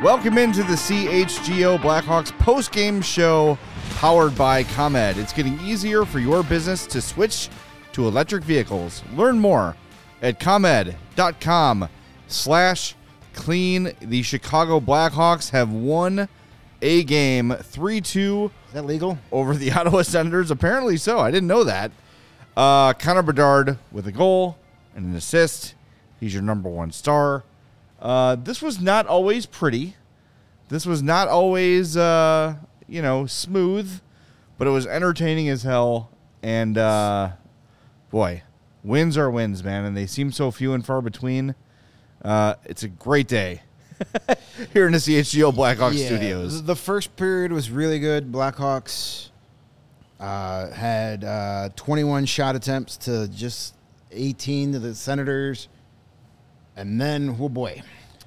Welcome into the CHGO Blackhawks post-game show powered by ComEd. It's getting easier for your business to switch to electric vehicles. Learn more at ComEd.com/clean. The Chicago Blackhawks have won a game 3-2. Is that legal? Over the Ottawa Senators. Apparently so. I didn't know that. Connor Bedard with a goal and an assist. He's your number one star. This was not always pretty. This was not always, smooth, but it was entertaining as hell. And, boy, wins are wins, man, and they seem so few and far between. It's a great day here in the CHGO Blackhawks studios. The first period was really good. Blackhawks had 21 shot attempts to just 18 to the Senators. And then, oh boy,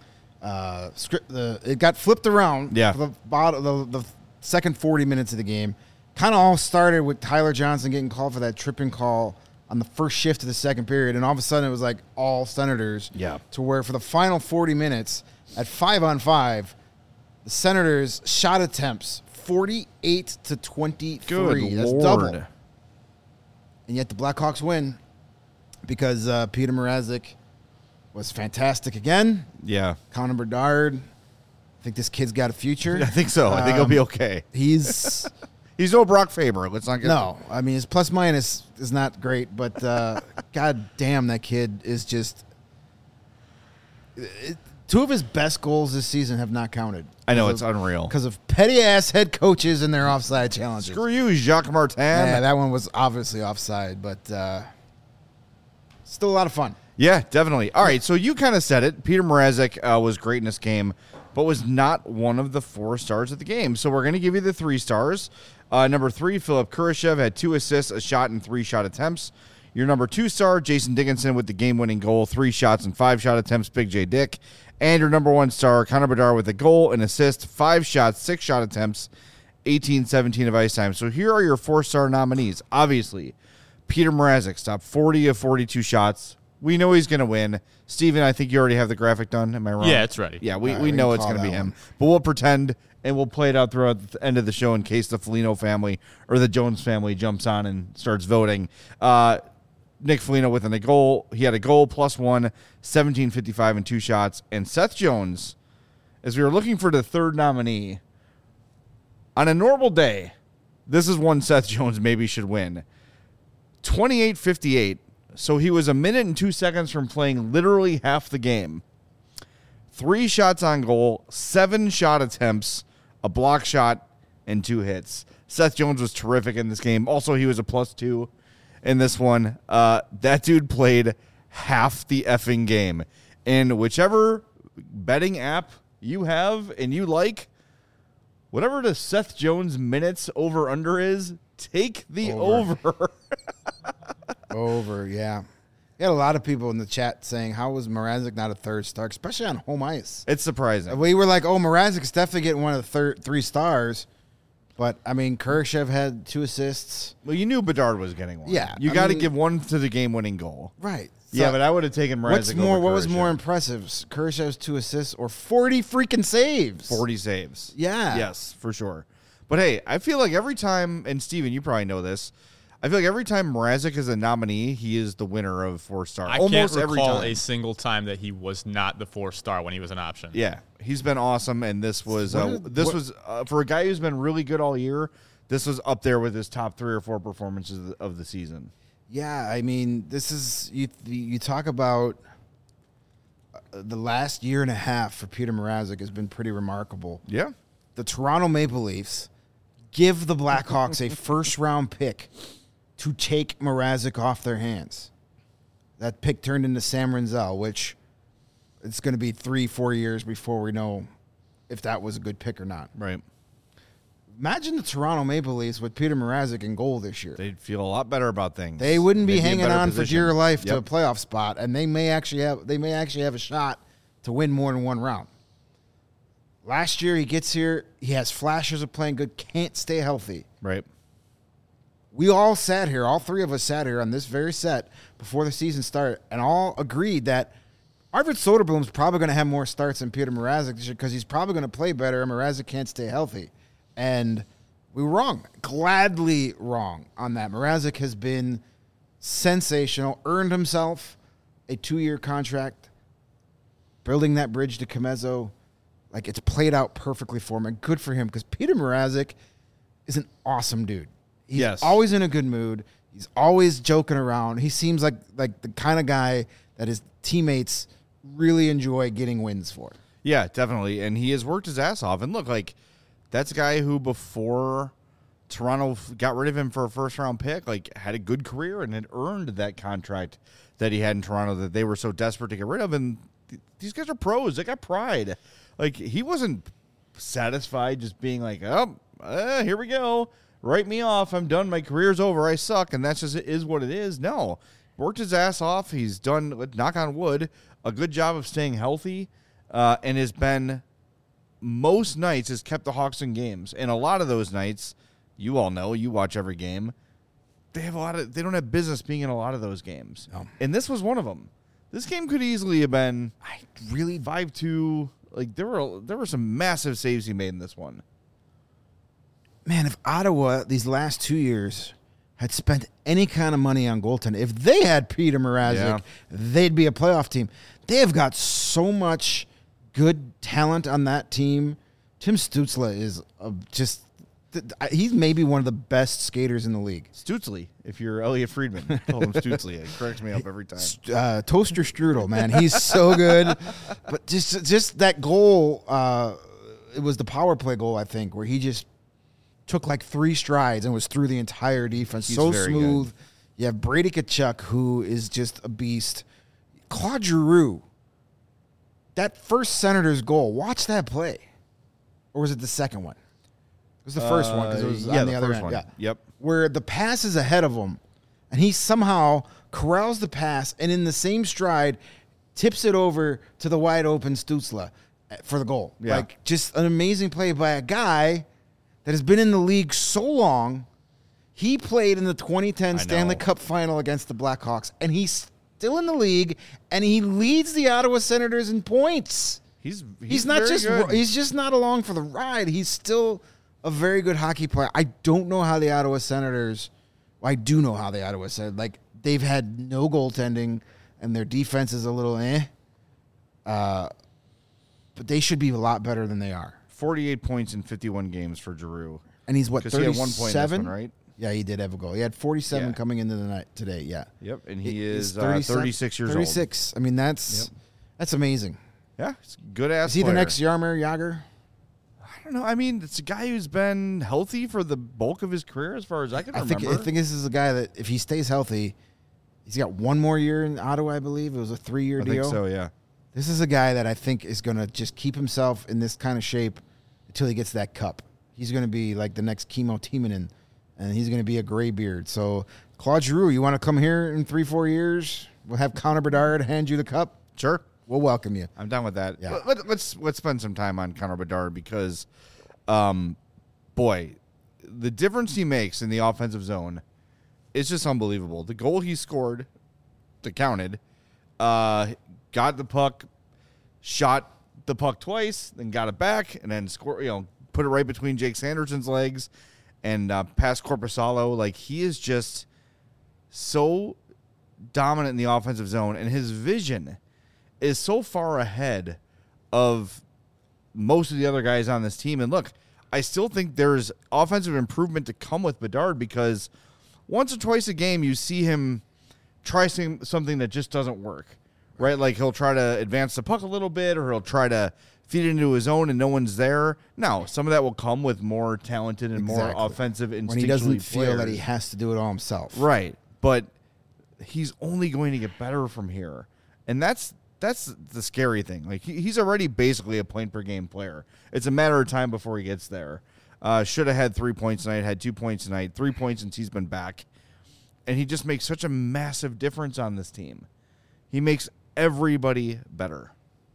it got flipped around for the second 40 minutes of the game. Kind of all started with Tyler Johnson getting called for that tripping call on the first shift of the second period. And all of a sudden, it was like all Senators. Yeah. To where for the final 40 minutes, at 5-on-5, the Senators' shot attempts 48 to 23. Good That's Lord. double. And yet the Blackhawks win because Peter Mrazek was fantastic again. Yeah. Connor Bedard. I think this kid's got a future. I think so. I think he'll be okay. He's no Brock Faber. Let's not get no. I mean, his plus minus is not great, but God damn, that kid is just. Two of his best goals this season have not counted. I know, it's unreal. Because of petty-ass head coaches and their offside challenges. Screw you, Jacques Martin. Yeah, that one was obviously offside, but still a lot of fun. Yeah, definitely. All right, so you kind of said it. Peter Mrazek was great in this game, but was not one of the 4 stars of the game. So we're going to give you the 3 stars. Number 3, Philip Kurashev had 2 assists, a shot, and 3 shot attempts. Your number 2 star, Jason Dickinson, with the game-winning goal, 3 shots and 5 shot attempts, Big J Dick. And your number 1 star, Connor Bedard, with a goal, an assist, 5 shots, 6 shot attempts, 18-17 of ice time. So here are your 4-star nominees. Obviously, Peter Mrazek stopped 40 of 42 shots. We know he's going to win. Steven, I think you already have the graphic done. Am I wrong? Yeah, it's ready. Yeah, we know it's going to be him. But we'll pretend, and we'll play it out throughout the end of the show in case the Foligno family or the Jones family jumps on and starts voting. Nick Foligno with a goal. He had a goal plus 1, 17:55 and 2 shots. And Seth Jones, as we were looking for the 3rd nominee, on a normal day, this is one Seth Jones maybe should win. 28:58. So he was a minute and 2 seconds from playing literally half the game. 3 shots on goal, 7 shot attempts, a block shot, and 2 hits. Seth Jones was terrific in this game. Also, he was a +2 in this one. That dude played half the effing game. And whichever betting app you have and you like, whatever the Seth Jones minutes over-under is, take the over. Over, yeah. We had a lot of people in the chat saying, how was Mrazek not a 3rd star, especially on home ice? It's surprising. We were like, Mrazek's definitely getting one of the 3 stars. But, I mean, Kurashev had 2 assists. Well, you knew Bedard was getting one. Yeah. You got to give one to the game-winning goal. Right. So Yeah, but I would have taken Mrazek over what was Kurashev. more impressive? Kurashev's 2 assists or 40 freaking saves? 40 saves. Yeah. Yes, for sure. But, hey, I feel like every time, and Steven, you probably know this, I feel like every time Mrazek is a nominee, he is the winner of 4-star. I Almost can't every recall time. a single time that he was not the 4-star when he was an option. Yeah, he's been awesome, and this was for a guy who's been really good all year, this was up there with his top 3 or 4 performances of the season. Yeah, I mean, this is you talk about the last year and a half for Peter Mrazek has been pretty remarkable. Yeah. The Toronto Maple Leafs give the Blackhawks a 1st-round pick to take Mrazek off their hands. That pick turned into Sam Renzel, which it's going to be 3-4 years before we know if that was a good pick or not. Right. Imagine the Toronto Maple Leafs with Peter Mrazek in goal this year. They'd feel a lot better about things. They wouldn't be They'd in hanging better on position. for dear life to a Yep. playoff spot, and they may actually have a shot to win more than 1 round. Last year he gets here, he has flashes of playing good, can't stay healthy. Right. We all sat here, all 3 of us sat here on this very set before the season started, and all agreed that Arvid Soderblom's probably going to have more starts than Peter Mrazek because he's probably going to play better, and Mrazek can't stay healthy. And we were wrong, gladly wrong on that. Mrazek has been sensational, earned himself a 2-year contract, building that bridge to Comezzo. Like, it's played out perfectly for him, and good for him because Peter Mrazek is an awesome dude. He's always in a good mood. He's always joking around. He seems like the kind of guy that his teammates really enjoy getting wins for. Yeah, definitely. And he has worked his ass off. And look, like, that's a guy who before Toronto got rid of him for a first-round pick, like, had a good career and had earned that contract that he had in Toronto that they were so desperate to get rid of. And these guys are pros. They got pride. Like, he wasn't satisfied just being like, here we go. Write me off. I'm done. My career's over. I suck. And that's just is what it is. No. Worked his ass off. He's done, knock on wood, a good job of staying healthy, and has been most nights has kept the Hawks in games. And a lot of those nights, you all know, you watch every game, they don't have business being in a lot of those games. No. And this was one of them. This game could easily have been really 5-2. Like, there were some massive saves he made in this one. Man, if Ottawa these last 2 years had spent any kind of money on goaltending, if they had Peter Mrazek, they'd be a playoff team. They have got so much good talent on that team. Tim Stützle is he's maybe one of the best skaters in the league. Stutzley, if you're Elliot Friedman, call him Stutzley. It cracks me up every time. Toaster Strudel, man, he's so good. But just that goal, it was the power play goal, I think, where he just took like 3 strides and was through the entire defense. He's so very smooth. good. You have Brady Tkachuk, who is just a beast. Claude Giroux, that first Senators goal, watch that play. Or was it the second one? It was the first one because it was on the other end. One. Yeah. Yep. Where the pass is ahead of him, and he somehow corrals the pass, and in the same stride, tips it over to the wide open Stützle for the goal. Yeah. Like, just an amazing play by a guy that has been in the league so long. He played in the 2010 Stanley Cup final against the Blackhawks, and he's still in the league, and he leads the Ottawa Senators in points. He's not very just good. he's just not along for the ride. He's still a very good hockey player. I don't know how the Ottawa Senators. Well, I do know how the Ottawa Senators. Like, they've had no goaltending, and their defense is a little but they should be a lot better than they are. 48 points in 51 games for Giroux. And he's what, 37? He had 1 point in this one, right? Yeah, he did have a goal. He had 47 coming into the night today. Yeah. Yep, and he is 36 years old. 36. I mean, that's amazing. Yeah, it's a good ass. Is he player. the next Jaromir Jagr? I don't know. I mean, it's a guy who's been healthy for the bulk of his career, as far as I can remember. I think this is a guy that, if he stays healthy, he's got 1 more year in Ottawa, I believe. It was a 3-year deal. I think so, yeah. This is a guy that I think is going to just keep himself in this kind of shape until he gets that cup. He's going to be like the next Kimmo Timonen, and he's going to be a gray beard. So, Claude Giroux, you want to come here in 3-4 years? We'll have Connor Bedard hand you the cup. Sure. We'll welcome you. I'm down with that. Yeah. Let's spend some time on Connor Bedard because, boy, the difference he makes in the offensive zone is just unbelievable. The goal he scored, that counted, got the puck, shot the puck twice, then got it back, and then put it right between Jake Sanderson's legs and past Korpisalo. Like, he is just so dominant in the offensive zone, and his vision is so far ahead of most of the other guys on this team. And look, I still think there's offensive improvement to come with Bedard because once or twice a game you see him try something that just doesn't work, right? Like, he'll try to advance the puck a little bit, or he'll try to feed it into his own and no one's there. Now, some of that will come with more talented and more offensive instinctually when he doesn't feel players. that he has to do it all himself. Right. But he's only going to get better from here. And that's the scary thing. Like, he's already basically a point-per-game player. It's a matter of time before he gets there. Should have had 3 points tonight, had 2 points tonight, 3 points since he's been back. And he just makes such a massive difference on this team. He makes everybody better.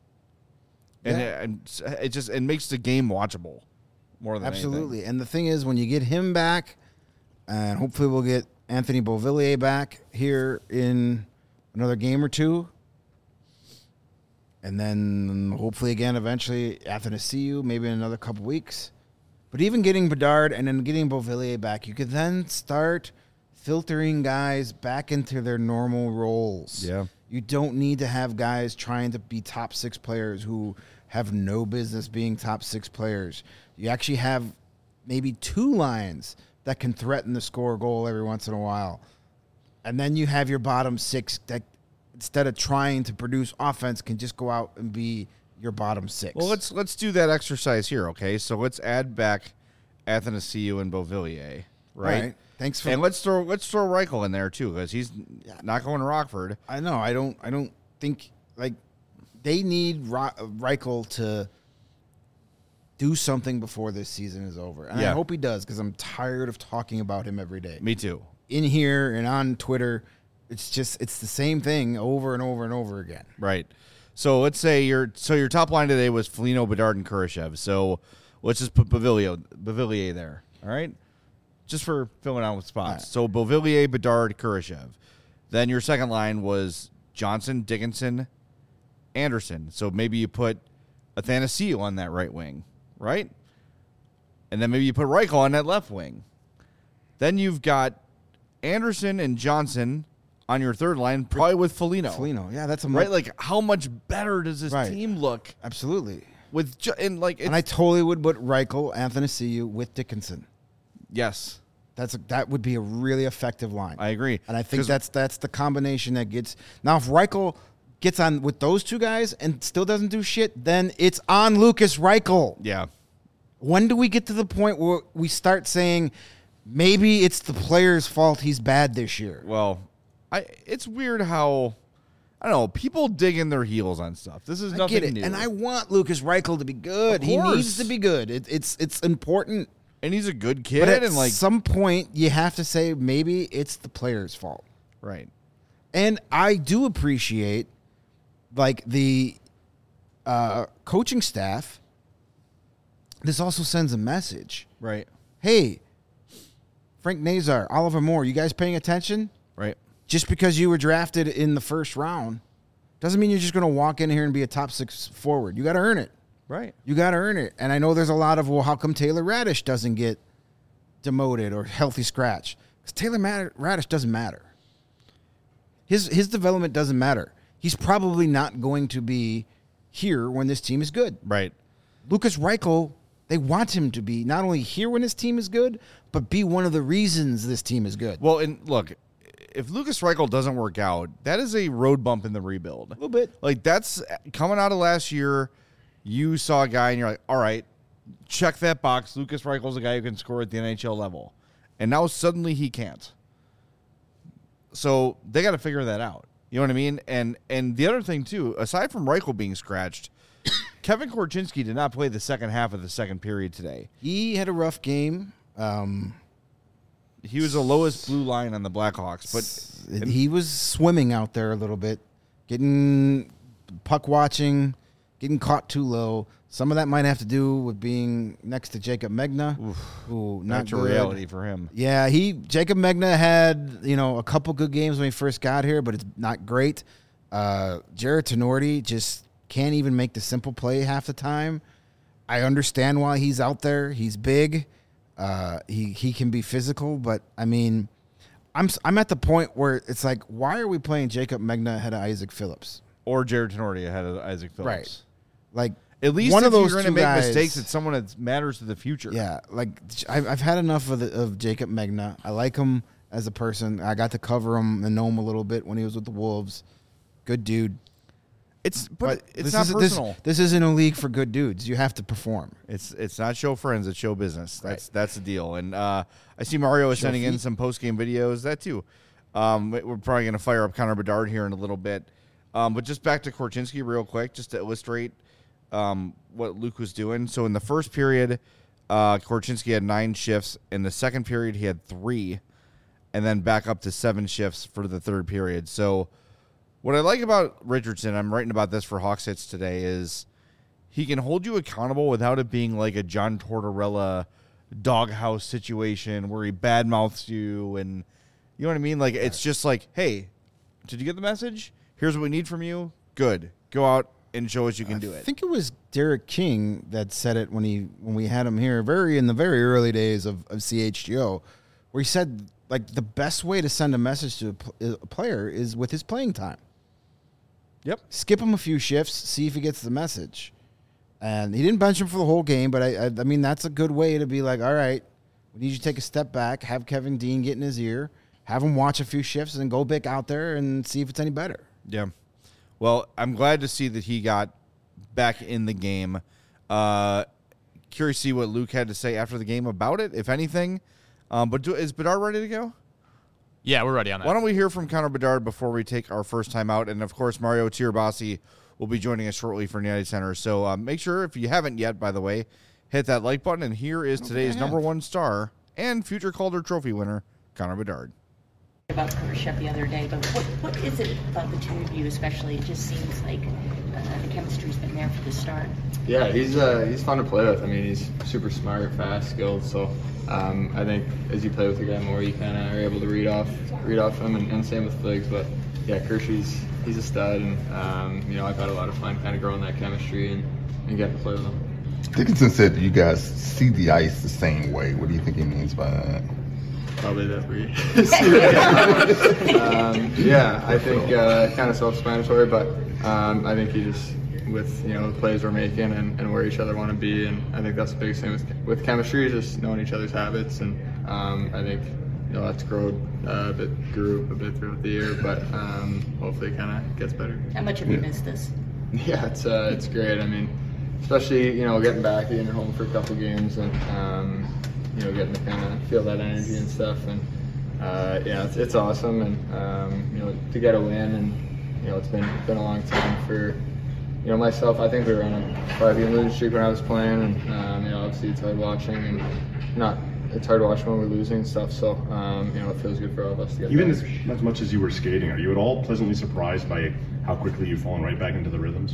And it makes the game watchable more than Absolutely. anything. And the thing is, when you get him back, and hopefully we'll get Anthony Beauvillier back here in another game or two, And then hopefully again eventually Athanasiou, maybe in another couple weeks. But even getting Bedard and then getting Beauvillier back, you could then start filtering guys back into their normal roles. Yeah. You don't need to have guys trying to be top 6 players who have no business being top 6 players. You actually have maybe 2 lines that can threaten to score a goal every once in a while. And then you have your bottom 6 that, instead of trying to produce offense, can just go out and be your bottom 6. Well, let's do that exercise here, okay? So let's add back Athanasiou and Beauvillier, right? All right. Thanks for. And let's throw Reichel in there too, because he's not going to Rockford. I know. I don't think like they need Reichel to do something before this season is over, and I hope he does, because I'm tired of talking about him every day. Me too. In here and on Twitter, it's the same thing over and over and over again. Right. So let's say your top line today was Foligno, Bedard, and Kurashev. So let's just put Beauvillier there. All right. Just for filling out with spots. Right. So Beauvillier, Bedard, Kurashev. Then your second line was Johnson, Dickinson, Anderson. So maybe you put Athanasiou on that right wing, right? And then maybe you put Reichel on that left wing. Then you've got Anderson and Johnson on your third line, probably with Foligno. Foligno, yeah, that's a right. Like, how much better does this team look? Absolutely. And I totally would put Reichel, Athanasiou with Dickinson. Yes. That would be a really effective line. I agree. And I think that's the combination that gets. Now, if Reichel gets on with those two guys and still doesn't do shit, then it's on Lucas Reichel. Yeah. When do we get to the point where we start saying maybe it's the player's fault he's bad this year? Well, it's weird how, I don't know, people dig in their heels on stuff. This is nothing new. And I want Lucas Reichel to be good. He needs to be good. It's important. And he's a good kid. But at and some point, you have to say maybe it's the player's fault. Right. And I do appreciate, like, the coaching staff. This also sends a message. Right. Hey, Frank Nazar, Oliver Moore, you guys paying attention? Right. Just because you were drafted in the first round doesn't mean you're just going to walk in here and be a top 6 forward. You got to earn it. Right. You got to earn it. And I know there's a lot of, well, how come Taylor Radish doesn't get demoted or healthy scratch? Because Taylor Radish doesn't matter. His development doesn't matter. He's probably not going to be here when this team is good. Right. Lucas Reichel, they want him to be not only here when this team is good, but be one of the reasons this team is good. Well, and look, if Lucas Reichel doesn't work out, that is a road bump in the rebuild. A little bit. Like, that's coming out of last year. You saw a guy and you're like, all right, check that box. Lucas Reichel's a guy who can score at the NHL level. And now suddenly he can't. So they got to figure that out. You know what I mean? And the other thing, too, aside from Reichel being scratched, Kevin Korchinski did not play the second half of the second period today. He had a rough game. He was the lowest blue line on the Blackhawks. But he was swimming out there a little bit, getting puck watching, getting caught too low. Some of that might have to do with being next to Jacob Megna, who not back to good. reality for him. Yeah, Jacob Megna had a couple good games when he first got here, but it's not great. Jared Tenorti just can't even make the simple play half the time. I understand why he's out there. He's big. He can be physical, but I mean, I'm at the point where it's like, why are we playing Jacob Megna ahead of Isaac Phillips Or Jared Tenorti ahead of Isaac Phillips. Right. Like, at least one if of those you're two going to make guys, mistakes, it's someone that matters to the future. Yeah, like I've had enough of Jacob Megna. I like him as a person. I got to cover him and know him a little bit when he was with the Wolves. Good dude. It's this not personal. This isn't a league for good dudes. You have to perform. It's not show friends. It's show business. That's the deal. And I see Mario is sending in some post game videos. That too. We're probably going to fire up Connor Bedard here in a little bit. But just back to Korchinski real quick, just to illustrate what Luke was doing. So in the first period, Korchinski had 9 shifts. In the second period, he had 3, and then back up to 7 shifts for the third period. So what I like about Richardson, I'm writing about this for Hawks Hits today, is he can hold you accountable without it being like a John Tortorella doghouse situation where he badmouths you, and you know what I mean? Like, it's just like, hey, did you get the message? Here's what we need from you. Good. Go out and show us you can do I it. think it was Derek King that said it when we had him here in the very early days of CHGO, where he said like the best way to send a message to a player is with his playing time. Yep. Skip him a few shifts, see if he gets the message. And he didn't bench him for the whole game, but I mean that's a good way to be like, all right, we need you to take a step back, have Kevin Dean get in his ear, have him watch a few shifts, and then go back out there and see if it's any better. Yeah. Well, I'm glad to see that he got back in the game. Curious to see what Luke had to say after the game about it, if anything. But is Bedard ready to go? Yeah, we're ready on that. Why don't we hear from Connor Bedard before we take our first time out? And, of course, Mario Tirabassi will be joining us shortly for United Center. So make sure, if you haven't yet, by the way, hit that like button. And here is today's number one star and future Calder Trophy winner, Connor Bedard. About Khrushchev the other day, but what is it about the two of you especially? It just seems like the chemistry's been there for the start. Yeah, he's fun to play with. I mean, he's super smart, fast, skilled. So I think as you play with the guy more, you kind of are able to read off him, and same with Fliggs. But yeah, Kershey's he's a stud, and you know, I've had a lot of fun kind of growing that chemistry and getting to play with him. Dickinson said that you guys see the ice the same way. What do you think he means by that? Probably that we yeah, I think kind of self-explanatory, but I think he just, with the plays we're making and where each other want to be, and I think that's the biggest thing with chemistry, just knowing each other's habits, and I think that's grew a bit throughout the year, but hopefully it kind of gets better. How much have you missed this? Yeah, it's great. I mean, especially getting back, getting home for a couple games, and getting to kind of feel that energy and stuff, and yeah, it's awesome, and to get a win, and it's been a long time for myself. I think we were on a 5-game losing streak when I was playing, and obviously it's hard watching, and it's hard watching when we're losing and stuff. So it feels good for all of us to get even back. as much as you were skating, are you at all pleasantly surprised by how quickly you've fallen right back into the rhythms?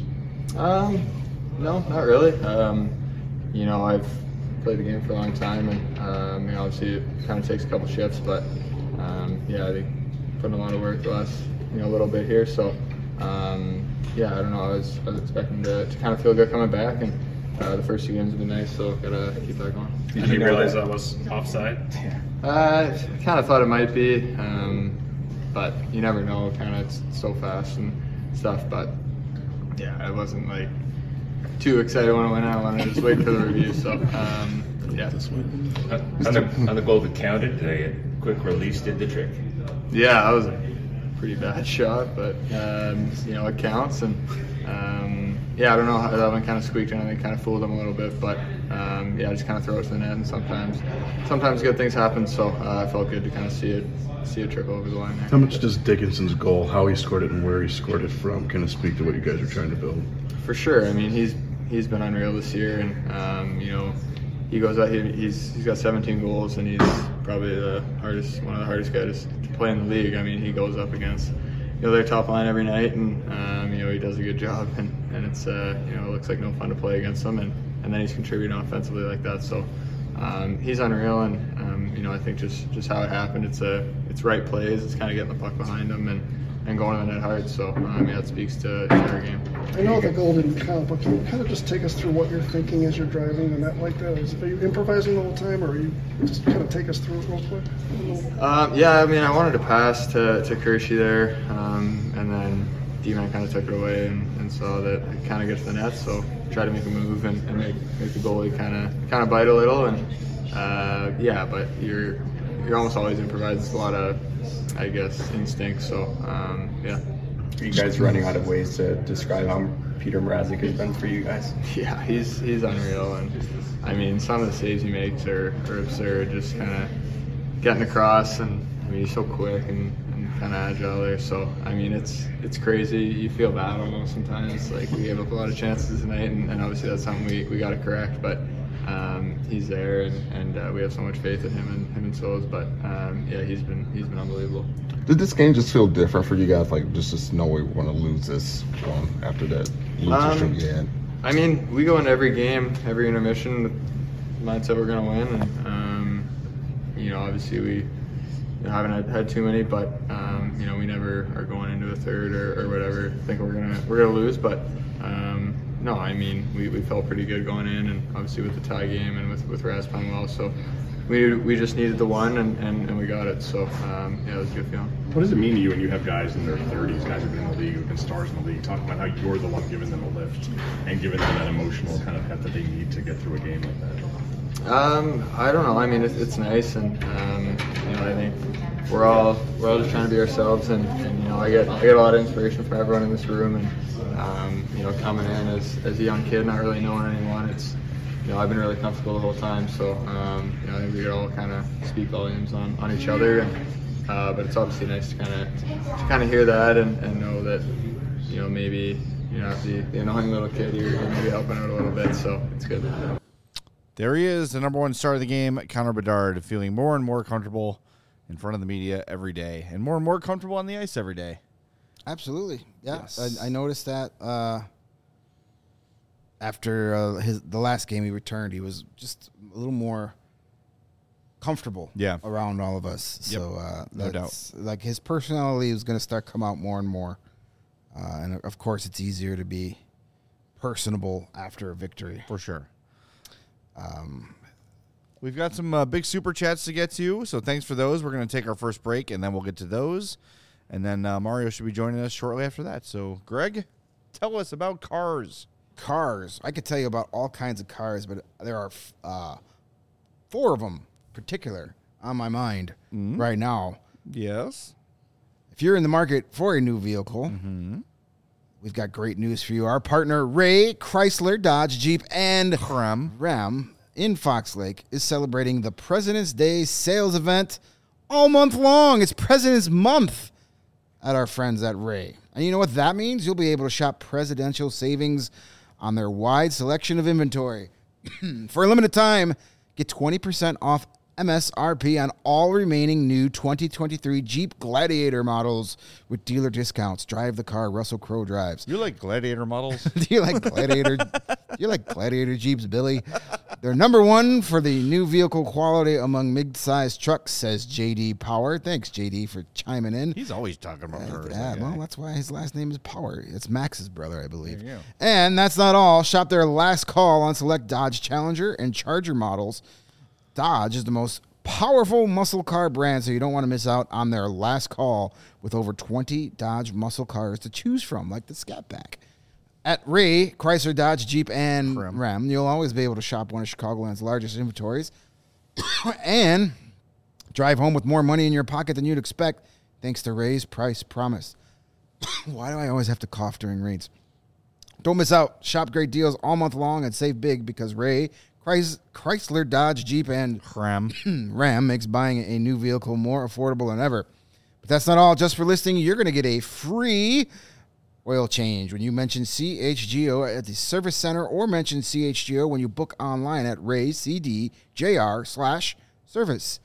No, not really. I've played the game for a long time, and obviously it kind of takes a couple shifts, but yeah, I think putting a lot of work the last little bit here. So yeah, I don't know. I was expecting to kind of feel good coming back, and the first 2 games have been nice, so gotta keep that going. Did you realize that was offside? I kind of thought it might be, but you never know. Kind of it's so fast and stuff, but yeah, I wasn't like too excited when it went out. I wanted to just wait for the review. So yeah. On the goal that counted, the quick release did the trick. Yeah, that was a pretty bad shot, but it counts, and yeah, I don't know how that one kind of squeaked in. I think kind of fooled them a little bit, but yeah, just kind of throw it to the net, and sometimes good things happen. So I felt good to kind of see it trip over the line there. How much does Dickinson's goal, how he scored it and where he scored it from, kind of speak to what you guys are trying to build? For sure. I mean, he's been unreal this year, and he goes out. He's got 17 goals, and he's probably one of the hardest guys to play in the league. I mean, he goes up against their top line every night, and he does a good job, and it's it looks like no fun to play against him, and then he's contributing offensively like that. So he's unreal, and I think just how it happened. It's right plays. It's kind of getting the puck behind him and going to the net hard. So yeah, it speaks to our game. I know the goal didn't count, but can you kind of just take us through what you're thinking as you're driving the net like that? Are you improvising the whole time, or are you just kind of take us through it real quick? Yeah, I mean, I wanted to pass to Kershey there, and then D-Man kind of took it away and saw that it kind of gets to the net, so tried to make a move and make the goalie kind of bite a little, and yeah, but you're almost always improvising. It's a lot of, I guess, instinct. So yeah. Are you guys running out of ways to describe how Peter Mrazek has been for you guys? Yeah, he's unreal, and I mean, some of the saves he makes are absurd. Just kind of getting across, and I mean, he's so quick and kind of agile there. So I mean, it's crazy. You feel bad almost sometimes. Like, we gave up a lot of chances tonight, and obviously that's something we got to correct. But he's there, and we have so much faith in him and Soz. But yeah, he's been unbelievable. Did this game just feel different for you guys? Like, just know we want to lose this one after that loser streak you had? I mean, we go into every game, every intermission with the mindset we're going to win, and obviously we haven't had too many, but we never are going into a third or whatever think we're gonna lose. But no, I mean, we felt pretty good going in, and obviously with the tie game and with Raz playing well, so we just needed the one, and we got it. So yeah, it was a good feeling. What does it mean to you when you have guys in their 30s, guys who've been in the league, who've been stars in the league, talking about how you're the one giving them a lift and giving them that emotional kind of heft that they need to get through a game like that? I don't know. I mean, it's nice, and you know, I think we're all just trying to be ourselves, and you know, I get a lot of inspiration from everyone in this room, and you know, coming in as a young kid, not really knowing anyone, it's, you know, I've been really comfortable the whole time, so you know, I think we could all kind of speak volumes on each other, and but it's obviously nice to kind of hear that and know that, you know, maybe you're not the annoying little kid, you're maybe helping out a little bit, so it's good. There he is, the number one star of the game, Connor Bedard, feeling more and more comfortable in front of the media every day, and more comfortable on the ice every day. Absolutely, yeah. Yes. I noticed that after the last game he returned, he was just a little more comfortable around all of us. Yep. So No doubt. Like his personality is going to start come out more and more. And of course, it's easier to be personable after a victory. For sure. We've got some big super chats to get to, so thanks for those. We're going to take our first break, and then we'll get to those. And then Mario should be joining us shortly after that. So, Greg, tell us about cars. Cars. I could tell you about all kinds of cars, but there are 4 of them particular on my mind right now. Yes. If you're in the market for a new vehicle, we've got great news for you. Our partner, Ray Chrysler, Dodge, Jeep, and Ram in Fox Lake is celebrating the President's Day sales event all month long. It's President's Month at our friends at Ray. And you know what that means? You'll be able to shop presidential savings on their wide selection of inventory. For a limited time, get 20% off MSRP on all remaining new 2023 Jeep Gladiator models with dealer discounts. Drive the car Russell Crowe drives. You like Gladiator models? Do you like Gladiator? You like Gladiator Jeeps, Billy? They're number one for the new vehicle quality among mid-sized trucks, says J.D. Power. Thanks, J.D., for chiming in. He's always talking about cars. Yeah, well, that's why his last name is Power. It's Max's brother, I believe. There you go. And that's not all. Shop their last call on select Dodge Challenger and Charger models. Dodge is the most powerful muscle car brand, so you don't want to miss out on their last call with over 20 Dodge muscle cars to choose from, like the Scat Pack. At Ray, Chrysler, Dodge, Jeep, and Ram, you'll always be able to shop one of Chicagoland's largest inventories and drive home with more money in your pocket than you'd expect thanks to Ray's Price Promise. Why do I always have to cough during reads? Don't miss out. Shop great deals all month long and save big because Ray, Chrysler, Dodge, Jeep, and Ram makes buying a new vehicle more affordable than ever. But that's not all. Just for listening, you're going to get a free oil change when you mention CHGO at the service center or mention CHGO when you book online at raycdjr/service.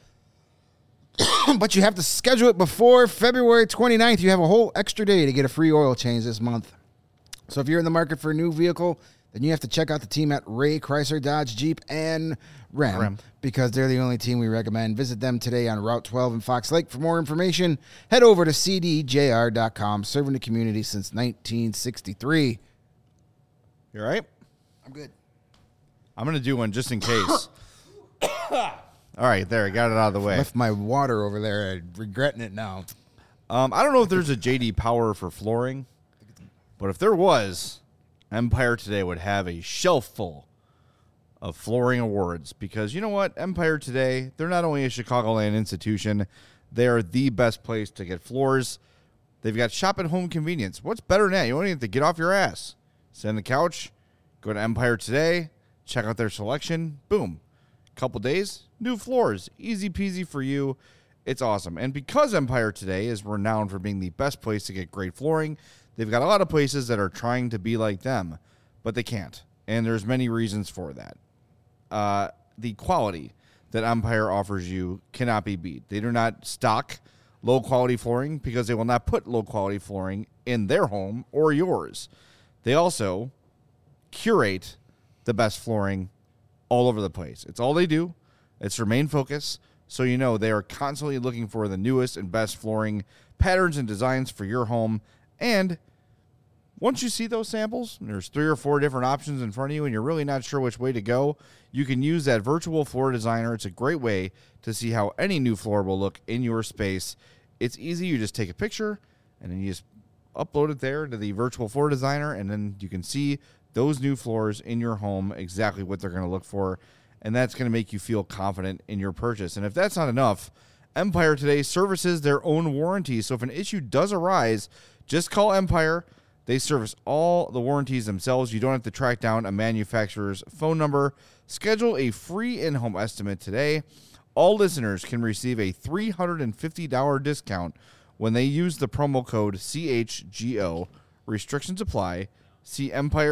But you have to schedule it before February 29th. You have a whole extra day to get a free oil change this month. So if you're in the market for a new vehicle, then you have to check out the team at Ray, Chrysler, Dodge, Jeep, and Ram because they're the only team we recommend. Visit them today on Route 12 in Fox Lake. For more information, head over to cdjr.com, serving the community since 1963. You all right? I'm good. I'm going to do one just in case. All right, there. I got it out of the way. Left my water over there. I'm regretting it now. I don't know if there's a J.D. Power for flooring, but if there was, Empire Today would have a shelf full of flooring awards because you know what? Empire Today, they're not only a Chicagoland institution, they are the best place to get floors. They've got shop at home convenience. What's better than that? You don't even have to get off your ass. Sit on the couch, go to Empire Today, check out their selection. Boom. Couple days, new floors. Easy peasy for you. It's awesome. And because Empire Today is renowned for being the best place to get great flooring, they've got a lot of places that are trying to be like them, but they can't. And there's many reasons for that. The quality that Empire offers you cannot be beat. They do not stock low-quality flooring because they will not put low-quality flooring in their home or yours. They also curate the best flooring all over the place. It's all they do. It's their main focus. So you know they are constantly looking for the newest and best flooring patterns and designs for your home. And Once you see those samples, there's 3 or 4 different options in front of you, and you're really not sure which way to go, you can use that virtual floor designer. It's a great way to see how any new floor will look in your space. It's easy. You just take a picture, and then you just upload it there to the virtual floor designer, and then you can see those new floors in your home, exactly what they're going to look for, and that's going to make you feel confident in your purchase. And if that's not enough, Empire today services their own warranty. So if an issue does arise, just call Empire. They service all the warranties themselves. You don't have to track down a manufacturer's phone number. Schedule a free in-home estimate today. All listeners can receive a $350 discount when they use the promo code CHGO. Restrictions apply. See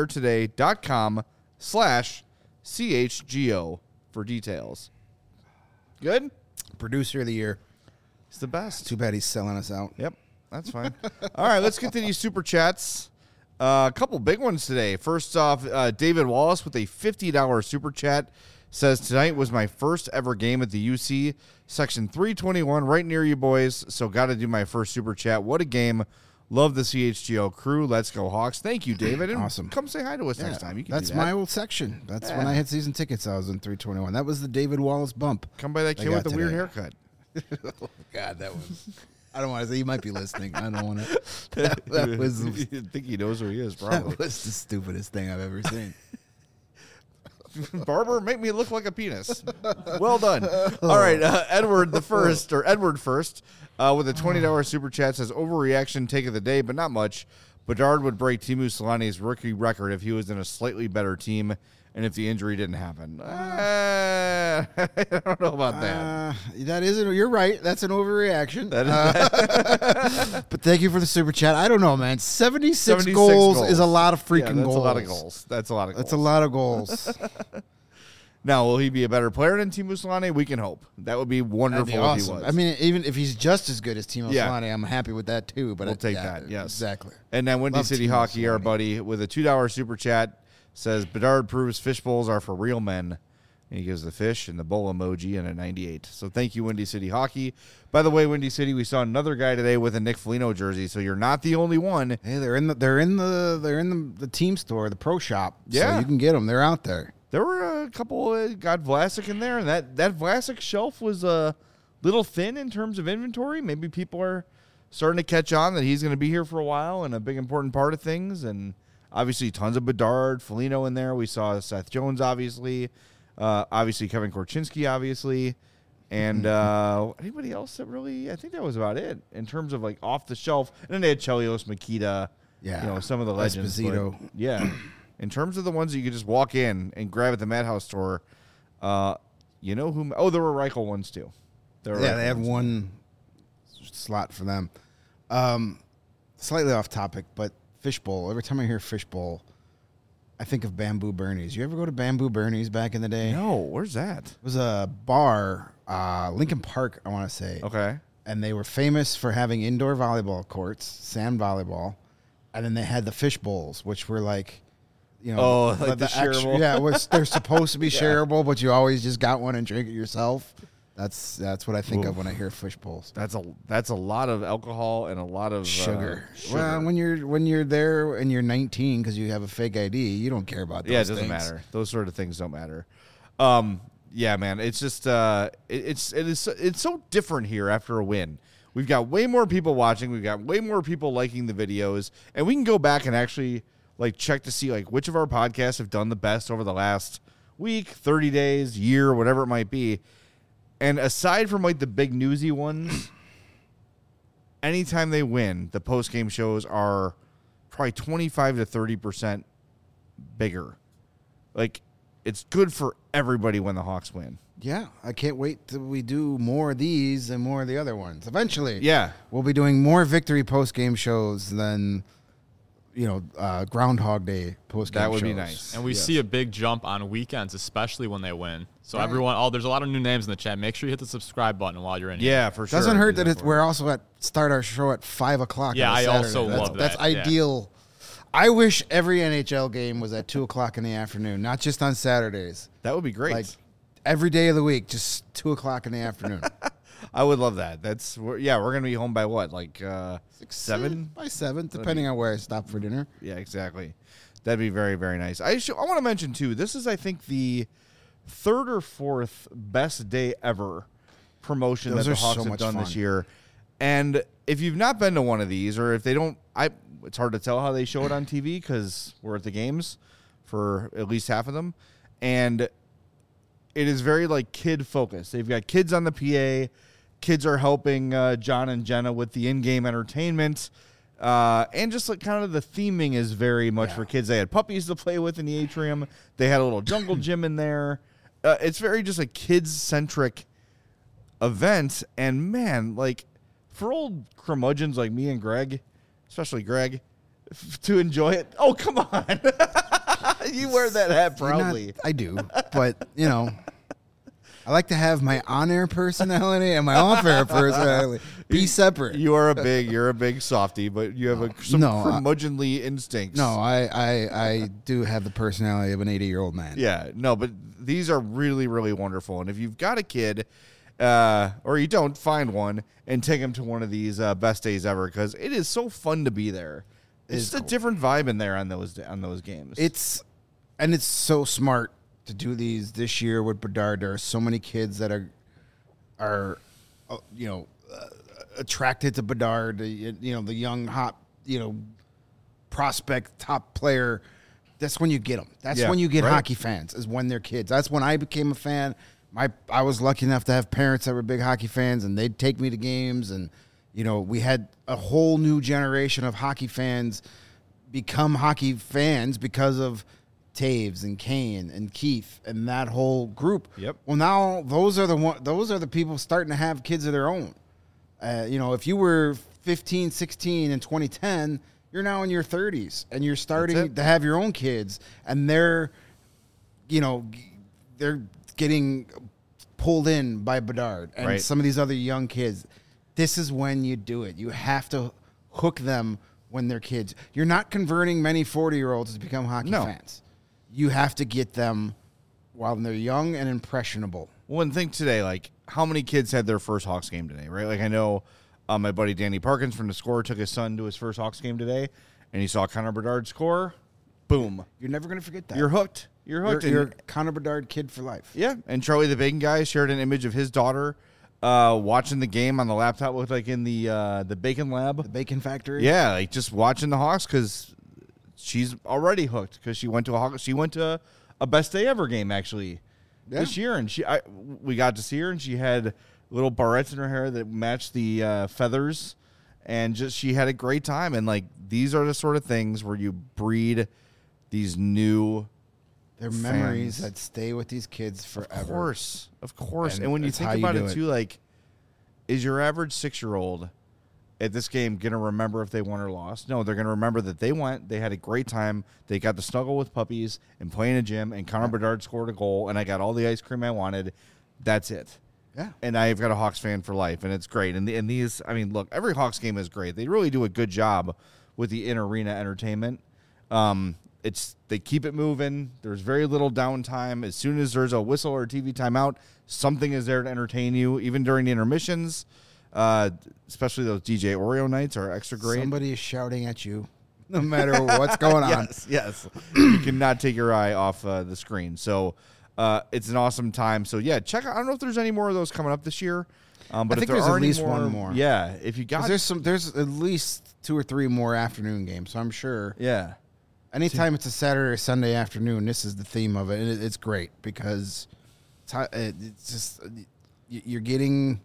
empiretoday.com/CHGO for details. Good? Producer of the year. It's the best. Too bad he's selling us out. Yep, that's fine. All right, let's get to these super chats. A couple big ones today. First off, David Wallace with a $50 super chat says, tonight was my first ever game at the UC, section 321, right near you boys, so got to do my first super chat. What a game. Love the CHGO crew. Let's go Hawks. Thank you, David. And awesome. Come say hi to us next time. You can That's do that. my old section. That's when I had season tickets. I was in 321. That was the David Wallace bump. Come by that kid with the weird haircut. Oh, God, that was... I don't want to say. He might be listening. I don't want to... That was... I think he knows who he is, probably. That was the stupidest thing I've ever seen. Barber, make me look like a penis. Well done. All right, Edward first, with a $20 super chat says, overreaction take of the day, but not much. Bedard would break Teemu Selanne's rookie record if he was in a slightly better team and if the injury didn't happen. I don't know about that. That isn't. You're right. That's an overreaction. That is but thank you for the super chat. I don't know, man. 76 goals is a lot of freaking goals. That's a lot of goals. That's a lot of goals. That's a lot of goals. Now, will he be a better player than Teemu Selanne? We can hope. That would be wonderful That'd be awesome. if he was. I mean, even if he's just as good as Teemu Selanne, I'm happy with that too. But we'll take that. Yes, exactly. And then Windy City Teemu Hockey, Selanne. our buddy, with a $2 super chat, says Bedard proves fish bowls are for real men. And he gives the fish and the bowl emoji and a 98. So thank you, Windy City Hockey. By the way, Windy City, we saw another guy today with a Nick Foligno jersey. So you're not the only one. Hey, they're in the team store, the pro shop. Yeah, so you can get them. They're out there. There were a couple got Vlasic in there, and that Vlasic shelf was a little thin in terms of inventory. Maybe people are starting to catch on that he's going to be here for a while and a big important part of things. And obviously, tons of Bedard, Foligno in there. We saw Seth Jones, obviously Kevin Korchinski, obviously, and anybody else that really. I think that was about it in terms of like off the shelf. And then they had Chelios, Makita, some of the legends. Esposito. But, yeah. In terms of the ones that you could just walk in and grab at the Madhouse store, you know who? Oh, there were Reichel ones too. They have one slot for them. Slightly off topic, but fishbowl. Every time I hear fishbowl, I think of Bamboo Bernie's. You ever go to Bamboo Bernie's back in the day? No, where's that? It was a bar, Lincoln Park, I want to say. Okay. And they were famous for having indoor volleyball courts, sand volleyball, and then they had the fish bowls, which were like, like the shareable. They're supposed to be shareable, but you always just got one and drink it yourself. That's what I think of when I hear fish bowls. That's a lot of alcohol and a lot of sugar. Well, when you're there and you're 19 because you have a fake ID, you don't care about those it doesn't things. matter. Those sort of things don't matter. Yeah, man. It's just it's so different here after a win. We've got way more people watching. We've got way more people liking the videos, and we can go back and actually check to see which of our podcasts have done the best over the last week, 30 days, year, whatever it might be. And aside from the big newsy ones, anytime they win, the post-game shows are probably 25 to 30% bigger. It's good for everybody when the Hawks win. Yeah, I can't wait till we do more of these and more of the other ones. Eventually, we'll be doing more victory post-game shows than Groundhog Day post-game shows. That would be nice. And we see a big jump on weekends, especially when they win. So everyone, there's a lot of new names in the chat. Make sure you hit the subscribe button while you're in here. Yeah, for sure. Doesn't hurt that we're also start our show at 5 o'clock. Yeah, I also that. love that. That's ideal. I wish every NHL game was at 2 o'clock in the afternoon, not just on Saturdays. That would be great. Every day of the week, just 2 o'clock in the afternoon. I would love that. We're gonna be home by what, like 7? By 7, depending on where I stop for dinner. Yeah, exactly. That'd be very, very nice. I want to mention too. This is, I think, the 3rd or 4th best day ever promotion that the Hawks have done this year. And if you've not been to one of these, or if they don't, it's hard to tell how they show it on TV because we're at the games for at least half of them, and it is very like kid focused. They've got kids on the PA. Kids are helping John and Jenna with the in-game entertainment. And just like kind of the theming is very much for kids. They had puppies to play with in the atrium. They had a little jungle gym in there. It's very just a kids-centric event. And man, like for old curmudgeons like me and Greg, especially Greg, to enjoy it. Oh, come on. You wear that hat proudly. I do. But, I like to have my on-air personality and my off-air personality be separate. You're a big softy, but you have some curmudgeonly instincts. No, I do have the personality of an 80-year-old man. Yeah, no, but these are really, really wonderful. And if you've got a kid, or you don't, find one and take them to one of these best days ever because it is so fun to be there. It's just a different vibe in there on those games. It's so smart to do these this year with Bedard. There are so many kids that are attracted to Bedard. The young hot prospect top player. That's when you get them. That's when you get hockey fans. Is when they're kids. That's when I became a fan. I was lucky enough to have parents that were big hockey fans, and they'd take me to games. And we had a whole new generation of hockey fans become hockey fans because of Taves and Kane and Keith and that whole group. Yep. Well, now those are the people starting to have kids of their own. If you were 15, 16 in 2010, you're now in your 30s and you're starting to have your own kids, and they're getting pulled in by Bedard and some of these other young kids. This is when you do it. You have to hook them when they're kids. You're not converting many 40-year-olds to become hockey fans. You have to get them while they're young and impressionable. Well, and think today, like, how many kids had their first Hawks game today, right? Like, I know my buddy Danny Parkins from The Score took his son to his first Hawks game today, and he saw Connor Bedard score. Boom. You're never going to forget that. You're hooked. You're hooked. You're a Connor Bedard kid for life. Yeah, and Charlie the Bacon Guy shared an image of his daughter watching the game on the laptop, looked like in the Bacon Lab. The Bacon Factory? Yeah, like just watching the Hawks because she's already hooked because she went to a best day ever game actually this year, and we got to see her, and she had little barrettes in her hair that matched the feathers, and just she had a great time. And like these are the sort of things where you breed these new memories that stay with these kids forever. Of course. And when you think about it too, like, is your average 6-year-old at this game going to remember if they won or lost? No, they're going to remember that they went, they had a great time, they got to snuggle with puppies and play in a gym, and Connor Bedard scored a goal, and I got all the ice cream I wanted. That's it. Yeah. And I've got a Hawks fan for life, and it's great. And these, I mean, look, every Hawks game is great. They really do a good job with the in-arena entertainment. They keep it moving. There's very little downtime. As soon as there's a whistle or a TV timeout, something is there to entertain you, even during the intermissions. Especially those DJ Oreo nights are extra great. Somebody is shouting at you no matter what's going on. Yes. You cannot take your eye off the screen. So it's an awesome time. So, yeah, check out. I don't know if there's any more of those coming up this year. But I think there's at least one more. Yeah. If you got there's at least 2 or 3 more afternoon games, so I'm sure. Yeah. Anytime it's a Saturday or Sunday afternoon, this is the theme of it. And it's great because it's just you're getting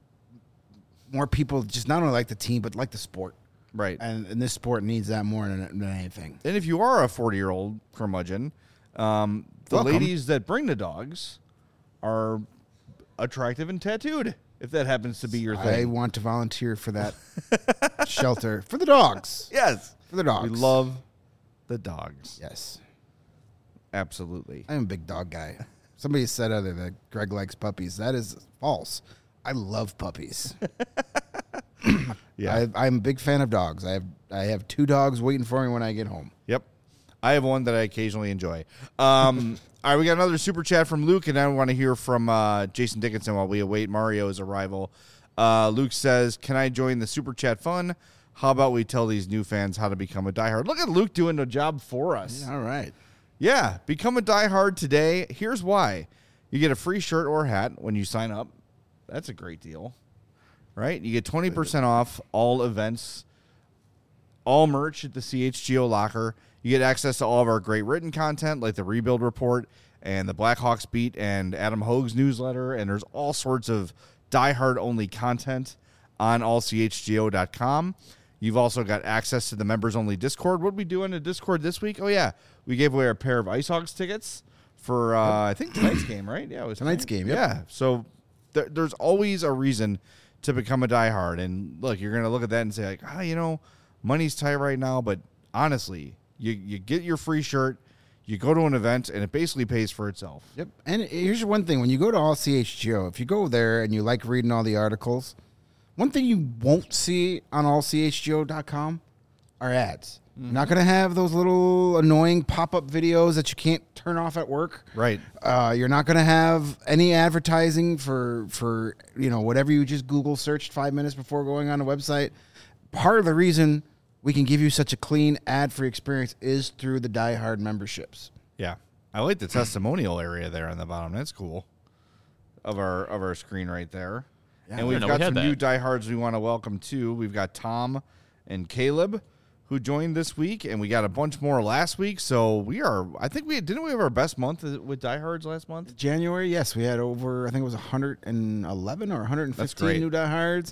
more people just not only like the team, but like the sport. Right. And this sport needs that more than anything. And if you are a 40-year-old curmudgeon, the ladies that bring the dogs are attractive and tattooed, if that happens to be your thing. I want to volunteer for that shelter. For the dogs. Yes. For the dogs. We love the dogs. Yes. Absolutely. I'm a big dog guy. Somebody said other that Greg likes puppies. That is false. I love puppies. Yeah. I'm a big fan of dogs. I have 2 dogs waiting for me when I get home. Yep. I have one that I occasionally enjoy. All All right, we got another super chat from Luke, and I want to hear from Jason Dickinson while we await Mario's arrival. Luke says, can I join the super chat fun? How about we tell these new fans how to become a diehard? Look at Luke doing the job for us. Yeah, all right. Yeah, become a diehard today. Here's why. You get a free shirt or hat when you sign up. That's a great deal, right? You get 20% off all events, all merch at the CHGO locker. You get access to all of our great written content like the Rebuild Report and the Blackhawks Beat and Adam Hogue's newsletter, and there's all sorts of diehard-only content on allchgo.com. You've also got access to the members-only Discord. What did we do in the Discord this week? Oh, yeah. We gave away a pair of Ice Hogs tickets for, I think, tonight's game, right? Yeah, it was tonight's game, yep. Yeah. So there's always a reason to become a diehard. And, look, you're going to look at that and say, like, money's tight right now. But, honestly, you get your free shirt, you go to an event, and it basically pays for itself. Yep. And here's one thing. When you go to All CHGO, if you go there and you like reading all the articles, one thing you won't see on allchgo.com are ads. Mm-hmm. You're not going to have those little annoying pop-up videos that you can't turn off at work. Right. You're not going to have any advertising for whatever you just Google searched 5 minutes before going on the website. Part of the reason we can give you such a clean ad-free experience is through the diehard memberships. Yeah. I like the testimonial area there on the bottom. That's cool. Of our screen right there. Yeah, and we've got some new diehards we want to welcome, too. We've got Tom and Caleb, who joined this week, and we got a bunch more last week. So didn't we have our best month with diehards last month? January, yes. We had over, I think it was 111 or 115 new diehards.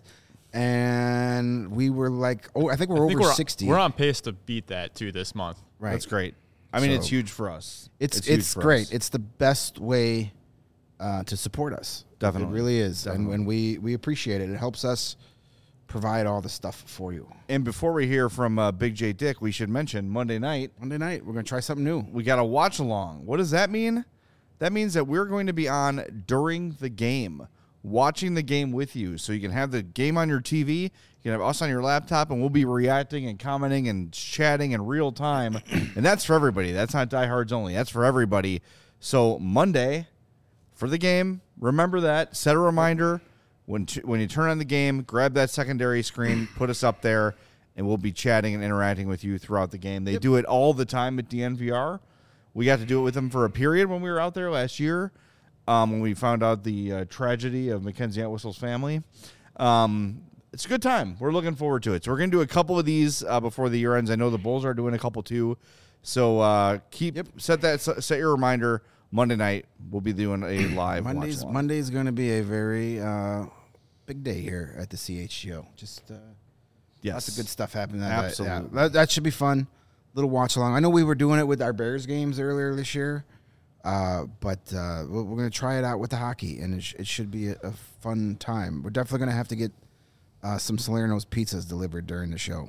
And we were like, I think we're over 60. We're on pace to beat that, too, this month. Right. That's great. I mean, it's huge for us. It's great. It's the best way to support us. Definitely. It really is. Definitely. And we appreciate it. It helps us provide all the stuff for you. And before we hear from Big J Dick, we should mention Monday night, we're going to try something new. We got a watch along. What does that mean? That means that we're going to be on during the game, watching the game with you. So you can have the game on your TV, you can have us on your laptop, and we'll be reacting and commenting and chatting in real time. And that's for everybody. That's not diehards only. That's for everybody. So Monday, for the game, remember that. Set a reminder. When you turn on the game, grab that secondary screen, put us up there, and we'll be chatting and interacting with you throughout the game. They do it all the time at DNVR. We got to do it with them for a period when we were out there last year, when we found out the tragedy of Mackenzie Entwistle's family. It's a good time. We're looking forward to it. So we're going to do a couple of these before the year ends. I know the Bulls are doing a couple too. So set your reminder. Monday night, we'll be doing a live watch-along. Monday's going to be a very big day here at the CHGO. Just lots of good stuff happening. Absolutely. That should be fun. Little watch-along. I know we were doing it with our Bears games earlier this year, but we're going to try it out with the hockey, and it should be a fun time. We're definitely going to have to get some Salerno's pizzas delivered during the show.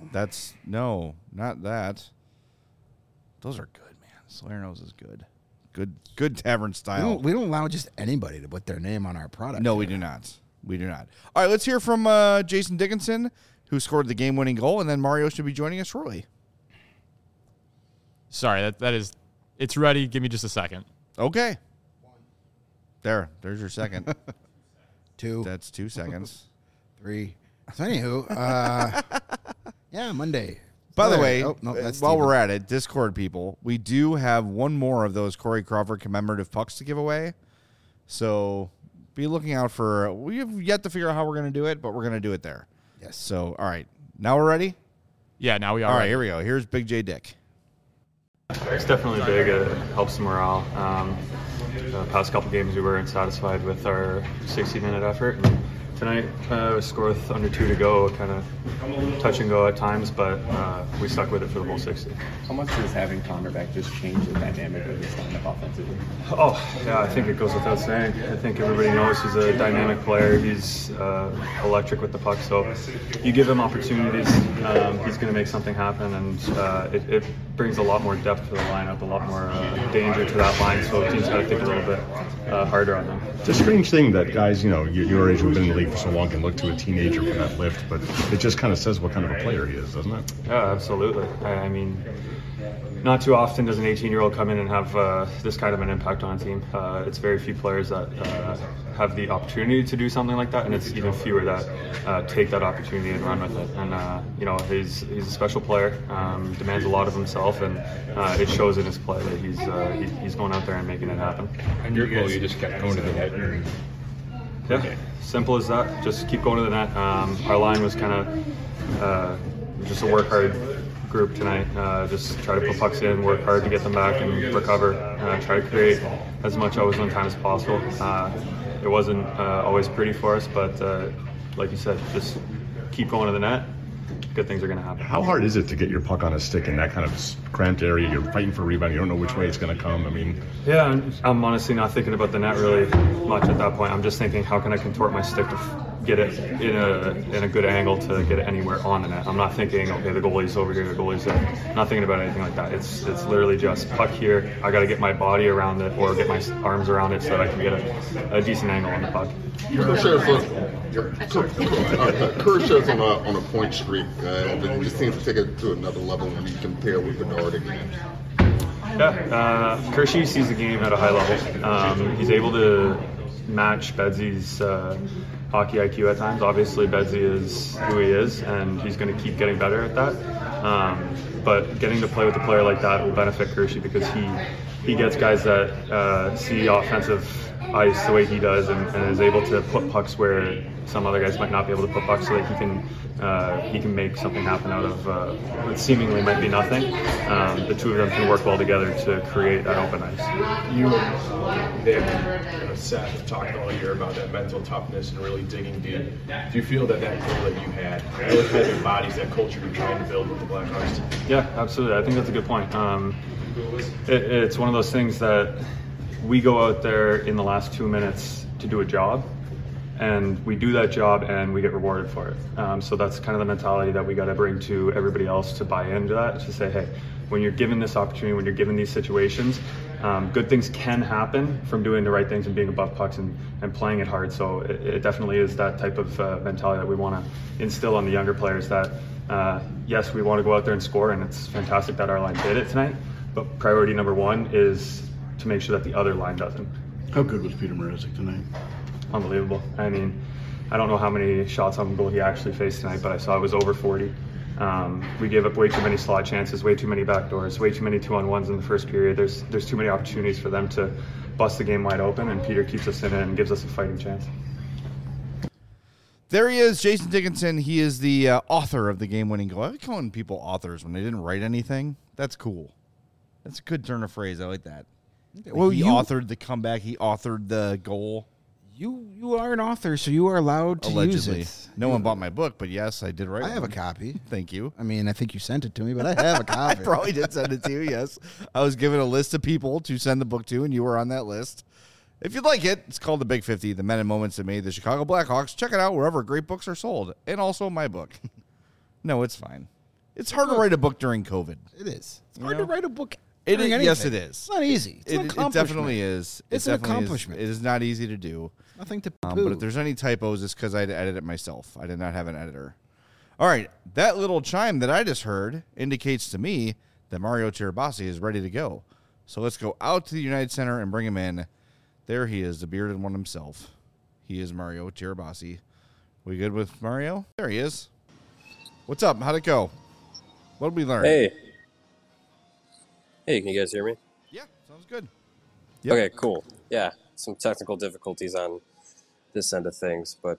Not that. Those are good, man. Salerno's is good. Good tavern style. We don't allow just anybody to put their name on our product. No, we do not. We do not. All right, let's hear from Jason Dickinson, who scored the game-winning goal, and then Mario should be joining us shortly. Sorry, it's ready. Give me just a second. Okay. There's your second. 2. That's 2 seconds. 3. So anywho, Monday. By the way, while we're at it, Discord people, we do have one more of those Corey Crawford commemorative pucks to give away. So be looking out for. We have yet to figure out how we're going to do it, but we're going to do it there. Yes. So, all right. Now we're ready? Yeah, now we are. All right, here we go. Here's Big J Dick. It's definitely big. It helps the morale. The past couple games, we weren't satisfied with our 60-minute effort. And tonight, we scored with under 2 to go, kind of touch and go at times, but we stuck with it for the whole 60. How much does having Connor back just change the dynamic of this lineup offensively? Oh, yeah, I think it goes without saying. I think everybody knows he's a dynamic player. He's electric with the puck, so you give him opportunities, he's going to make something happen, and it brings a lot more depth to the lineup, a lot more danger to that line, so teams got to think a little bit. harder on them. It's a strange thing that guys, your age who've been in the league for so long can look to a teenager for that lift, but it just kind of says what kind of a player he is, doesn't it? Yeah, absolutely. I mean, not too often does an 18-year-old come in and have this kind of an impact on a team. It's very few players that have the opportunity to do something like that, and it's even fewer that take that opportunity and run with it. And he's a special player, demands a lot of himself, and it shows in his play that he's going out there and making it happen. And your goal, you just kept going to the net. Yeah, simple as that. Just keep going to the net. Our line was kind of just a work hard group tonight. Just try to put pucks in, work hard to get them back and recover. Try to create as much overtime time as possible. It wasn't always pretty for us, but like you said, just keep going to the net. Good things are going to happen. How hard is it to get your puck on a stick in that kind of cramped area? You're fighting for rebound. You don't know which way it's going to come. I mean, yeah, I'm honestly not thinking about the net really much at that point. I'm just thinking, how can I contort my stick to get it in a good angle to get it anywhere on the net. I'm not thinking, okay, the goalie's over here, the goalie's there. Not thinking about anything like that. It's literally just puck here. I got to get my body around it or get my arms around it so that I can get a decent angle on the puck. Kershaw's on a point streak, but he just seems to take it to another level when you compare with Bedard again. Yeah, Kershey sees the game at a high level. He's able to match Bedsy's hockey IQ at times. Obviously, Bedsy is who he is, and he's going to keep getting better at that. But getting to play with a player like that will benefit Kershey because he gets guys that see offensive ice the way he does and is able to put pucks where some other guys might not be able to put pucks, so that he can make something happen out of what seemingly might be nothing. The two of them can work well together to create that open ice. You and Nick and Seth have talked all year about that mental toughness and really digging deep. Do you feel that goal that you had really kind of embodies that culture you're trying to build with the Blackhawks? Yeah, absolutely. I think that's a good point. It's one of those things that we go out there in the last 2 minutes to do a job, and we do that job and we get rewarded for it. So that's kind of the mentality that we got to bring to everybody else to buy into that, to say, hey, when you're given this opportunity, when you're given these situations, good things can happen from doing the right things and being above pucks and playing it hard. So it definitely is that type of mentality that we want to instill on the younger players, that yes, we want to go out there and score, and it's fantastic that our line did it tonight, but priority number one is to make sure that the other line doesn't. How good was Peter Mrazek tonight? Unbelievable. I mean, I don't know how many shots on goal he actually faced tonight, but I saw it was over 40. We gave up way too many slot chances, way too many backdoors, way too many 2-on-1s in the first period. There's too many opportunities for them to bust the game wide open, and Peter keeps us in it and gives us a fighting chance. There he is, Jason Dickinson. He is the author of the game-winning goal. I like calling people authors when they didn't write anything. That's cool. That's a good turn of phrase. I like that. Well, he authored the comeback. He authored the goal. You are an author, so you are allowed to Allegedly. use it. No one bought my book, but yes, I did write I have one. a copy. Thank you. I mean, I think you sent it to me, but I have a copy. I probably did send it to you, yes. I was given a list of people to send the book to, and you were on that list. If you'd like it, it's called The Big 50, The Men and Moments That Made the Chicago Blackhawks. Check it out wherever great books are sold, and also my book. No, it's fine. It's hard to write a book during COVID. It is. It's hard to write a book. Yes, it is. It's not easy. It's an accomplishment. It definitely is. It's an accomplishment. It is not easy to do. Nothing to but if there's any typos, it's because I had to edit it myself. I did not have an editor. All right. That little chime that I just heard indicates to me that Mario Tirabassi is ready to go. So let's go out to the United Center and bring him in. There he is, the bearded one himself. He is Mario Tirabassi. We good with Mario? There he is. What's up? How'd it go? What did we learn? Hey, can you guys hear me? Yeah, sounds good. Yep. Okay, cool. Yeah, some technical difficulties on this end of things, but,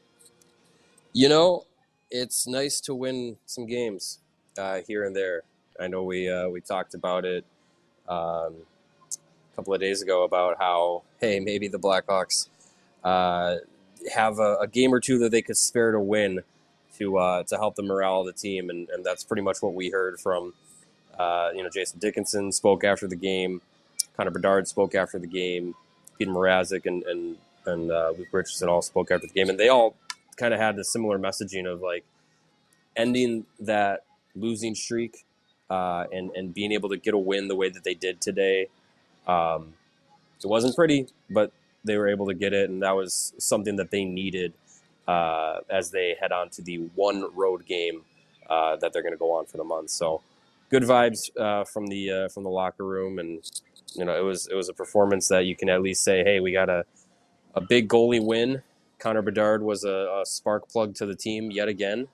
it's nice to win some games here and there. I know we talked about it a couple of days ago about how, hey, maybe the Blackhawks have a game or two that they could spare to win to help the morale of the team, and that's pretty much what we heard from Jason Dickinson spoke after the game, Connor Bedard spoke after the game, Peter Mrazek and Luke Richardson all spoke after the game, and they all kind of had a similar messaging of like ending that losing streak and being able to get a win the way that they did today. It wasn't pretty, but they were able to get it, and that was something that they needed as they head on to the one road game that they're going to go on for the month. So good vibes from the locker room, and it was a performance that you can at least say, hey, we got a big goalie win. Connor Bedard was a spark plug to the team yet again.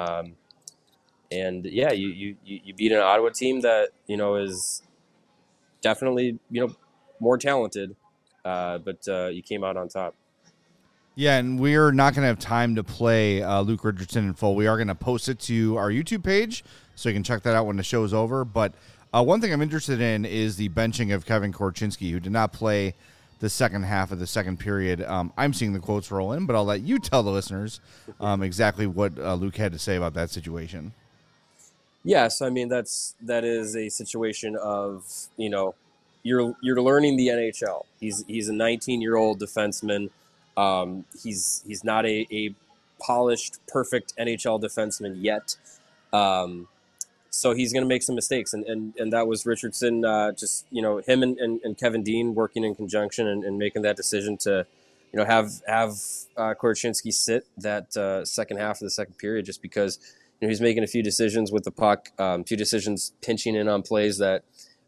And yeah, you beat an Ottawa team that, is definitely, more talented, but you came out on top. Yeah, and we're not going to have time to play Luke Richardson in full. We are going to post it to our YouTube page, so you can check that out when the show is over. But one thing I'm interested in is the benching of Kevin Korchinski, who did not play the second half of the second period. I'm seeing the quotes roll in, but I'll let you tell the listeners exactly what Luke had to say about that situation. Yes, I mean that is a situation of you're learning the NHL. He's a 19-year-old defenseman. He's not a polished, perfect NHL defenseman yet. So he's going to make some mistakes, and that was Richardson. Just him and Kevin Dean working in conjunction and making that decision to have Korchinski sit that second half of the second period, just because he's making a few decisions with the puck, few decisions pinching in on plays that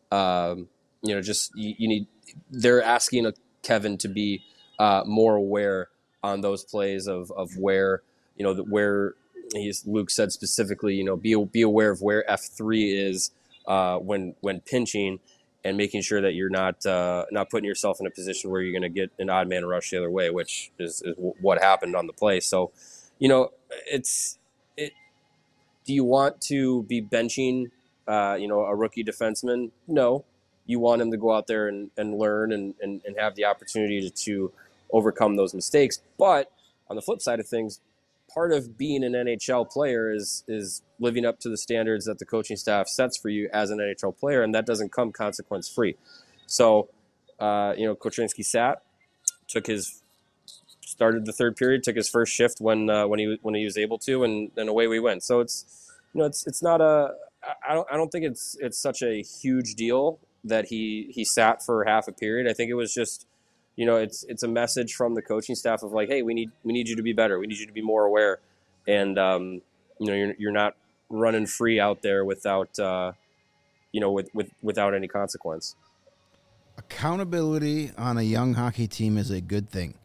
you need. They're asking Kevin to be more aware on those plays of where where Luke said specifically, be aware of where F3 is when pinching, and making sure that you're not putting yourself in a position where you're going to get an odd man rush the other way, which is what happened on the play. So, do you want to be benching, a rookie defenseman? No, you want him to go out there and learn and have the opportunity to overcome those mistakes. But on the flip side of things, part of being an NHL player is living up to the standards that the coaching staff sets for you as an NHL player, and that doesn't come consequence free. So, Korchinski started the third period, took his first shift when he was able to, and away we went. So it's not I don't think it's such a huge deal that he sat for half a period. I think it was just, it's a message from the coaching staff of like, hey, we need you to be better. We need you to be more aware. And, you're not running free out there without, without any consequence. Accountability on a young hockey team is a good thing.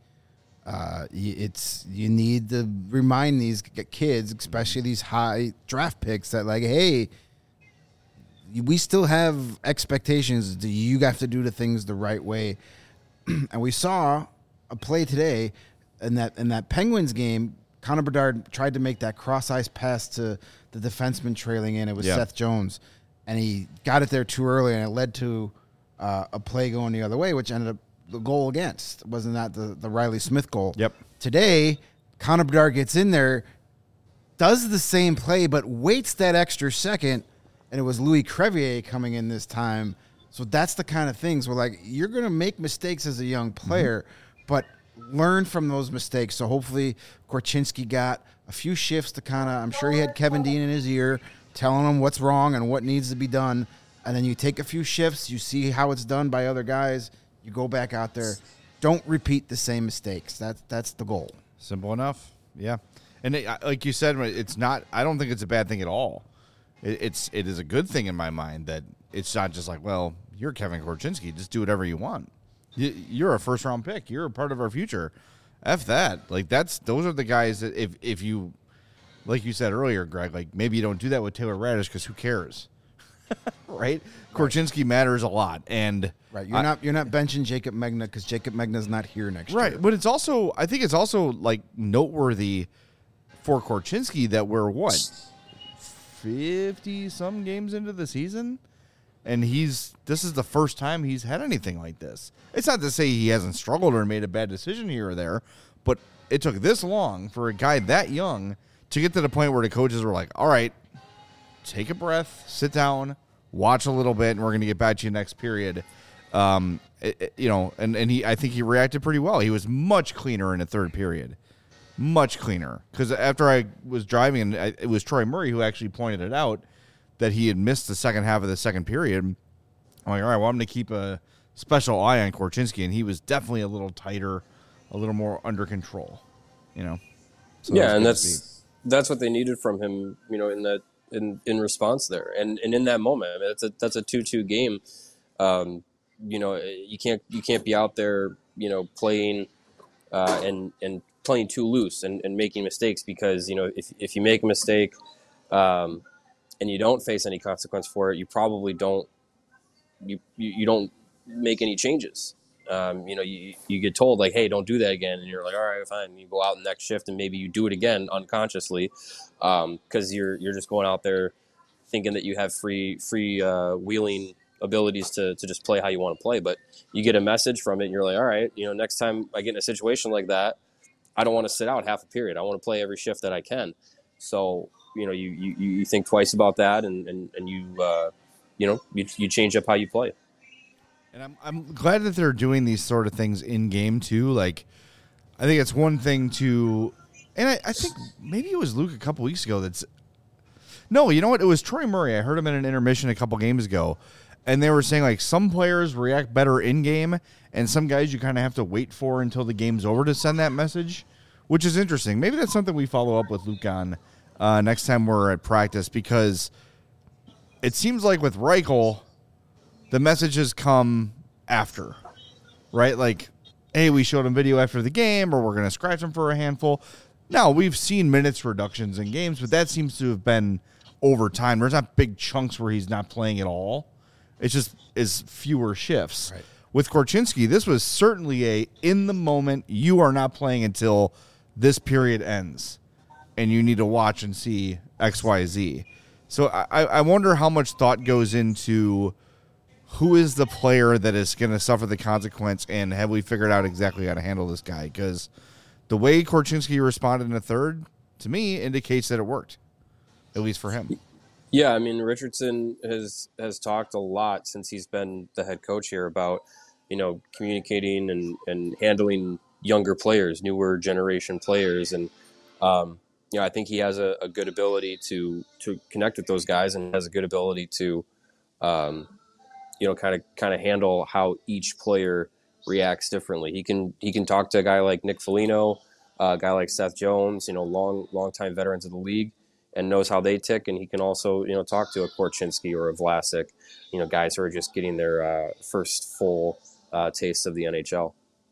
You need to remind these kids, especially these high draft picks, that like, hey, we still have expectations. You have to do the things the right way. And we saw a play today in that Penguins game. Connor Bedard tried to make that cross-ice pass to the defenseman trailing in. It was Seth Jones, and he got it there too early, and it led to a play going the other way, which ended up the goal against. Wasn't that the Riley Smith goal? Yep. Today, Connor Bedard gets in there, does the same play, but waits that extra second, and it was Louis Crevier coming in this time. So that's the kind of things where, like, you're going to make mistakes as a young player, but learn from those mistakes. So hopefully Korchinski got a few shifts to kind of, I'm sure he had Kevin Dean in his ear telling him what's wrong and what needs to be done. And then you take a few shifts, you see how it's done by other guys, you go back out there. Don't repeat the same mistakes. That's the goal. Simple enough. Yeah. And like you said, it's not, I don't think it's a bad thing at all. It is a good thing in my mind that it's not just like, well, you're Kevin Korchinski, just do whatever you want. You're a first round pick. You're a part of our future. F that. Like those are the guys that if you, like you said earlier, Greg, like maybe you don't do that with Taylor Radish because who cares, right? Korchinski matters a lot, and right. You're not benching Jacob Megna because Jacob Megna's not here next year. Right, but it's also, I think it's also like noteworthy for Korchinski that we're 50 some games into the season, and this is the first time he's had anything like this. It's not to say he hasn't struggled or made a bad decision here or there, but it took this long for a guy that young to get to the point where the coaches were like, all right, take a breath, sit down, watch a little bit, and we're going to get back to you next period. And I think he reacted pretty well. He was much cleaner in the third period. Much cleaner. Because after I was driving, it was Troy Murray who actually pointed it out that he had missed the second half of the second period. I'm like, all right, well, I'm going to keep a special eye on Korchinski, and he was definitely a little tighter, a little more under control, So yeah, and that's what they needed from him, in response there, and in that moment. I mean, that's a 2-2 game. You can't be out there, playing and playing too loose and making mistakes, because if you make a mistake and you don't face any consequence for it, you probably don't you don't make any changes. You get told like, hey, don't do that again, and you're like, all right, fine. You go out in the next shift and maybe you do it again unconsciously, because you're just going out there thinking that you have free wheeling abilities to just play how you want to play. But you get a message from it and you're like, all right, next time I get in a situation like that, I don't want to sit out half a period. I want to play every shift that I can. So you think twice about that, and you change up how you play. And I'm glad that they're doing these sort of things in game too. Like, I think it's one thing to, and I think maybe it was Luke a couple weeks ago. No, you know what? It was Troy Murray. I heard him in an intermission a couple games ago, and they were saying like some players react better in game, and some guys you kind of have to wait for until the game's over to send that message, which is interesting. Maybe that's something we follow up with Luke on next time we're at practice, because it seems like with Reichel, the messages come after, right? Like, hey, we showed him video after the game, or we're going to scratch him for a handful. Now, we've seen minutes reductions in games, but that seems to have been over time. There's not big chunks where he's not playing at all. It's just is fewer shifts. Right. With Korchinski, this was certainly in the moment, you are not playing until this period ends, and you need to watch and see X, Y, Z. So I wonder how much thought goes into who is the player that is going to suffer the consequence, and have we figured out exactly how to handle this guy? Because the way Korchinski responded in the third, to me, indicates that it worked, at least for him. Yeah, I mean, Richardson has talked a lot since he's been the head coach here about, communicating and handling younger players, newer generation players. And, I think he has a good ability to connect with those guys, and has a good ability to, kind of handle how each player reacts differently. He can talk to a guy like Nick Foligno, a guy like Seth Jones, long time veterans of the league, and knows how they tick. And he can also, talk to a Korchinski or a Vlasic, guys who are just getting their first full taste of the NHL.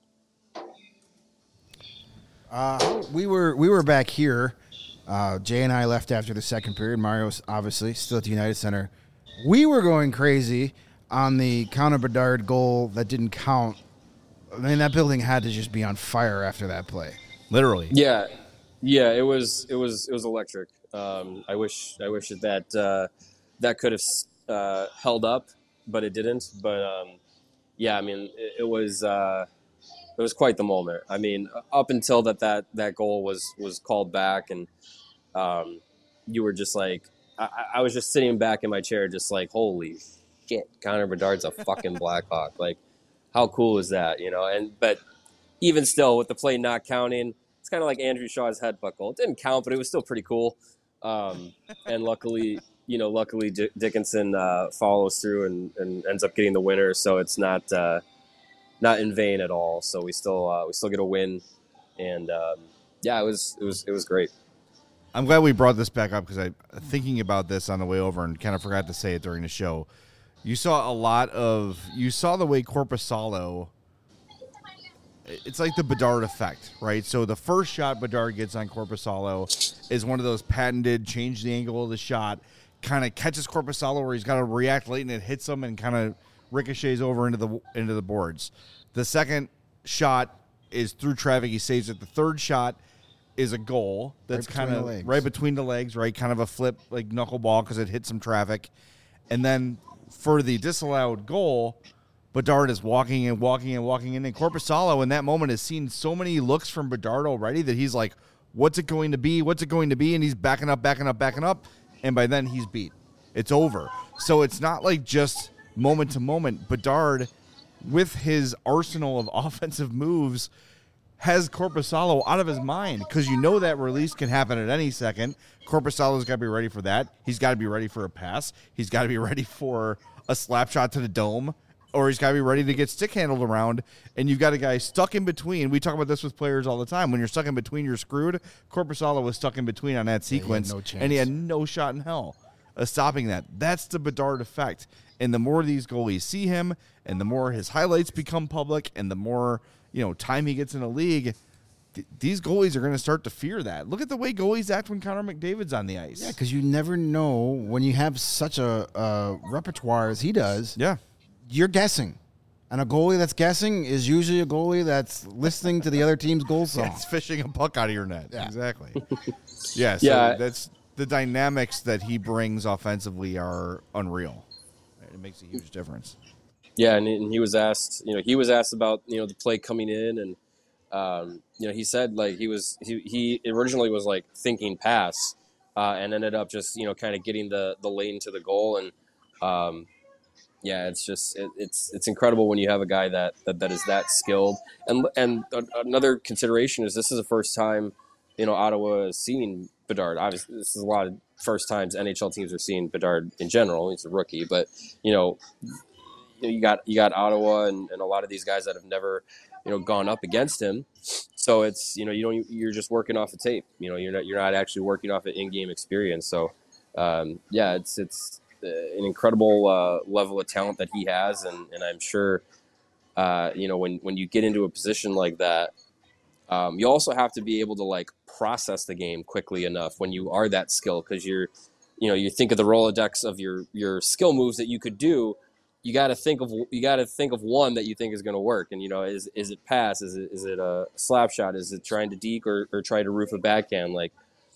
We were back here. Jay and I left after the second period. Mario's obviously still at the United Center. We were going crazy on the Connor Bedard goal that didn't count. I mean, that building had to just be on fire after that play. Literally. Yeah, it was electric. I wish that could have held up, but it didn't. But I mean, it was quite the moment. I mean, up until that goal was called back, and you were just like, I was just sitting back in my chair, just like, holy shit, Connor Bedard's a fucking Blackhawk. Like, how cool is that, but even still, with the play not counting, it's kind of like Andrew Shaw's headbutt goal. It didn't count, but it was still pretty cool. And luckily Dickinson follows through and ends up getting the winner. So it's not in vain at all. So we still get a win. And it was great. I'm glad we brought this back up, because I thinking about this on the way over and kind of forgot to say it during the show. You saw the way Korpisalo, it's like the Bedard effect, right? So the first shot Bedard gets on Korpisalo is one of those patented change the angle of the shot, kind of catches Korpisalo where he's got to react late, and it hits him and kind of ricochets over into the boards. The second shot is through traffic. He saves it. The third shot is a goal that's kind of right between the legs, right? Kind of a flip, like knuckleball, because it hit some traffic. And then for the disallowed goal, Bedard is walking and Korpisalo in that moment has seen so many looks from Bedard already that he's like, what's it going to be? And he's backing up. And by then he's beat. It's over. So it's not like just moment to moment. Bedard, with his arsenal of offensive moves, has Korpisalo out of his mind, because that release can happen at any second. Korpisalo's got to be ready for that. He's got to be ready for a pass. He's got to be ready for a slap shot to the dome, or he's got to be ready to get stick handled around, and you've got a guy stuck in between. We talk about this with players all the time. When you're stuck in between, you're screwed. Korpisalo was stuck in between on that sequence, and he had no shot in hell of stopping that. That's the Bedard effect. And the more these goalies see him, and the more his highlights become public, and the more time he gets in the league, these goalies are going to start to fear that. Look at the way goalies act when Connor McDavid's on the ice. Yeah, because you never know when you have such a repertoire as he does. Yeah. You're guessing. And a goalie that's guessing is usually a goalie that's listening to the other team's goal song. Yeah, it's fishing a puck out of your net. Yeah. Exactly. Yeah, so that's the dynamics that he brings offensively are unreal. It makes a huge difference. Yeah, and he was asked, about, the play coming in, and he said like he originally was like thinking pass, and ended up just kind of getting the lane to the goal, and it's just it's incredible when you have a guy that is that skilled, and another consideration is this is the first time Ottawa is seeing Bedard. Obviously, this is a lot of first times NHL teams are seeing Bedard in general. He's a rookie, but you got Ottawa and a lot of these guys that have never gone up against him. So it's you're just working off a tape. You're not actually working off an in-game experience. So it's an incredible level of talent that he has, and I'm sure when you get into a position like that, you also have to be able to like process the game quickly enough when you are that skilled, because you think of the Rolodex of your skill moves that you could do. You got to think of one that you think is going to work, and is it pass? Is it a slap shot? Is it trying to deke or try to roof a backhand? Like,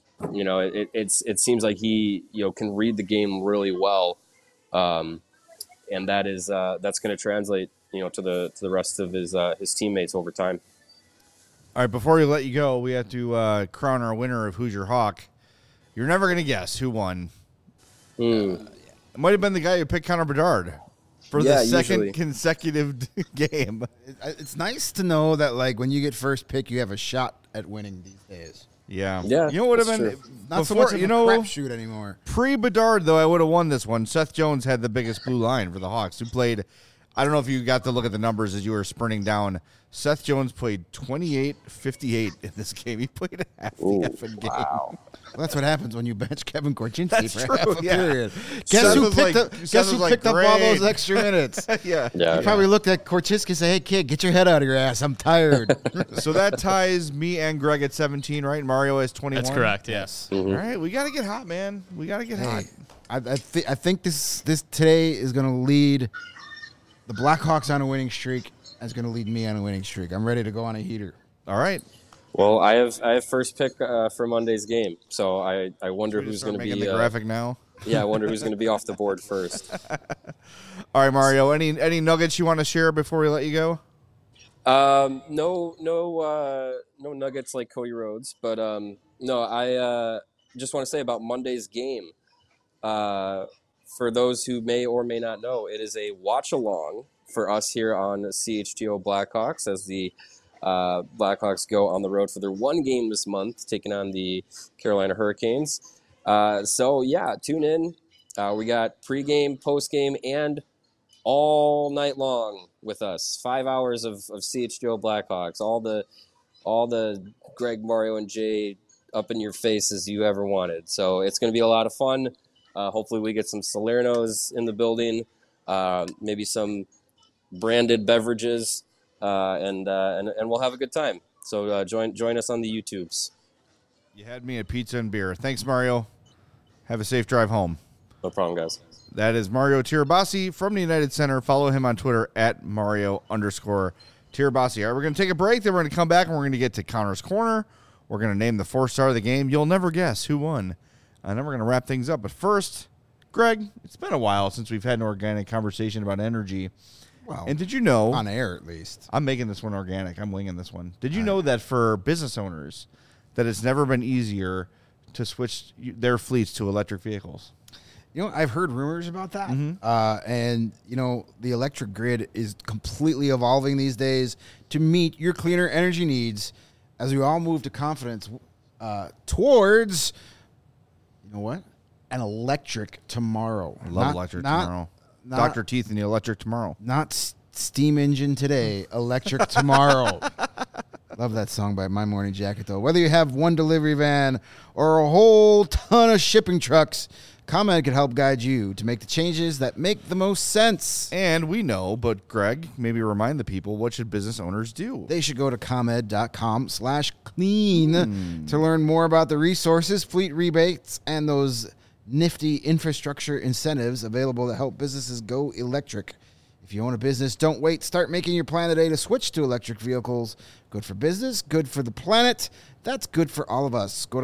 it seems like he can read the game really well, and that's going to translate to the rest of his teammates over time. All right, before we let you go, we have to crown our winner of Who's Your Hawk. You're never going to guess who won. It might have been the guy who picked Connor Bedard for the second consecutive game. It's nice to know that, like, when you get first pick, you have a shot at winning these days. Yeah. Yeah. You know what would have been not so much of a crapshoot anymore. Pre-Bedard, though, I would have won this one. Seth Jones had the biggest blue line for the Hawks, who played, I don't know if you got to look at the numbers as you were sprinting down. Seth Jones played 28-58 in this game. He played half the effing game. Wow. Well, that's what happens when you bench Kevin Korchinski for half a yeah. period. Guess who picked up all those extra minutes? Yeah. You probably looked at Korchinski and said, hey, kid, get your head out of your ass. I'm tired. So that ties me and Greg at 17, right? Mario has 21. That's correct, yes. Mm-hmm. All right, we got to get hot, man. We got to get hot. I think this today is going to lead the Blackhawks on a winning streak. Is going to lead me on a winning streak. I'm ready to go on a heater. All right. Well, I have first pick for Monday's game, so I wonder who's going to be the graphic now. Yeah, I wonder who's going to be off the board first. All right, Mario. Any nuggets you want to share before we let you go? No nuggets like Cody Rhodes, but no. I just want to say about Monday's game. For those who may or may not know, it is a watch along for us here on CHGO Blackhawks as the Blackhawks go on the road for their one game this month, taking on the Carolina Hurricanes. So, yeah, tune in. We got pregame, postgame, and all night long with us. 5 hours of CHGO Blackhawks. All the Greg, Mario, and Jay up in your faces you ever wanted. So it's going to be a lot of fun. Hopefully we get some Salernos in the building, maybe some branded beverages, and we'll have a good time. So join us on the YouTubes. You had me at pizza and beer. Thanks, Mario. Have a safe drive home. No problem, guys. That is Mario Tirabassi from the United Center. Follow him on Twitter at Mario_Tirabassi. All right, we're going to take a break. Then we're going to come back and we're going to get to Connor's Corner. We're going to name the 4-star of the game. You'll never guess who won. And then we're going to wrap things up. But first, Greg, it's been a while since we've had an organic conversation about energy. Well, and did you know, on air at least, I'm making this one organic. I'm winging this one. Did you know that for business owners, that it's never been easier to switch their fleets to electric vehicles? You know, I've heard rumors about that. Mm-hmm. And, you know, the electric grid is completely evolving these days to meet your cleaner energy needs as we all move to confidence towards, you know what, an electric tomorrow. I love electric tomorrow. Dr. Teeth and the electric tomorrow. Not steam engine today, electric tomorrow. Love that song by My Morning Jacket, though. Whether you have one delivery van or a whole ton of shipping trucks, ComEd can help guide you to make the changes that make the most sense. And we know, but Greg, maybe remind the people, what should business owners do? They should go to ComEd.com/clean to learn more about the resources, fleet rebates, and those nifty infrastructure incentives available to help businesses go electric. If you own a business, don't wait. Start making your plan today to switch to electric vehicles. Good for business, good for the planet. That's good for all of us. Go to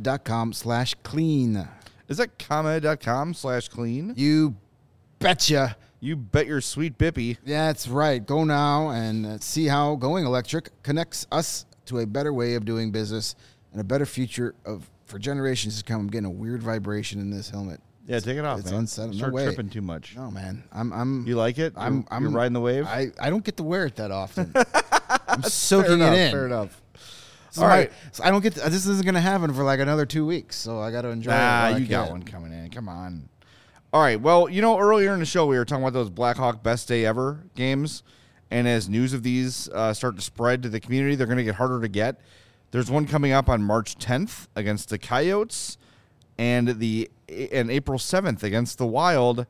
ComEd.com/clean. Is that ComEd.com/clean? You betcha. You bet your sweet bippy. Yeah, that's right. Go now and see how going electric connects us to a better way of doing business and a better future for generations to come. I'm getting a weird vibration in this helmet. Yeah, take it off, It's man. unsettling. Start No way. tripping too much. No, man. I'm. You like it? I'm You're riding the wave? I don't get to wear it that often. I'm soaking Fair it enough, in. Fair enough. So All right. So I don't get. This isn't going to happen for like another 2 weeks, so I got to enjoy it. while I You got can. one coming in. Come on. All right. Well, earlier in the show, we were talking about those Blackhawk Best Day Ever games. And as news of these start to spread to the community, they're going to get harder to get. There's one coming up on March 10th against the Coyotes and April 7th against the Wild.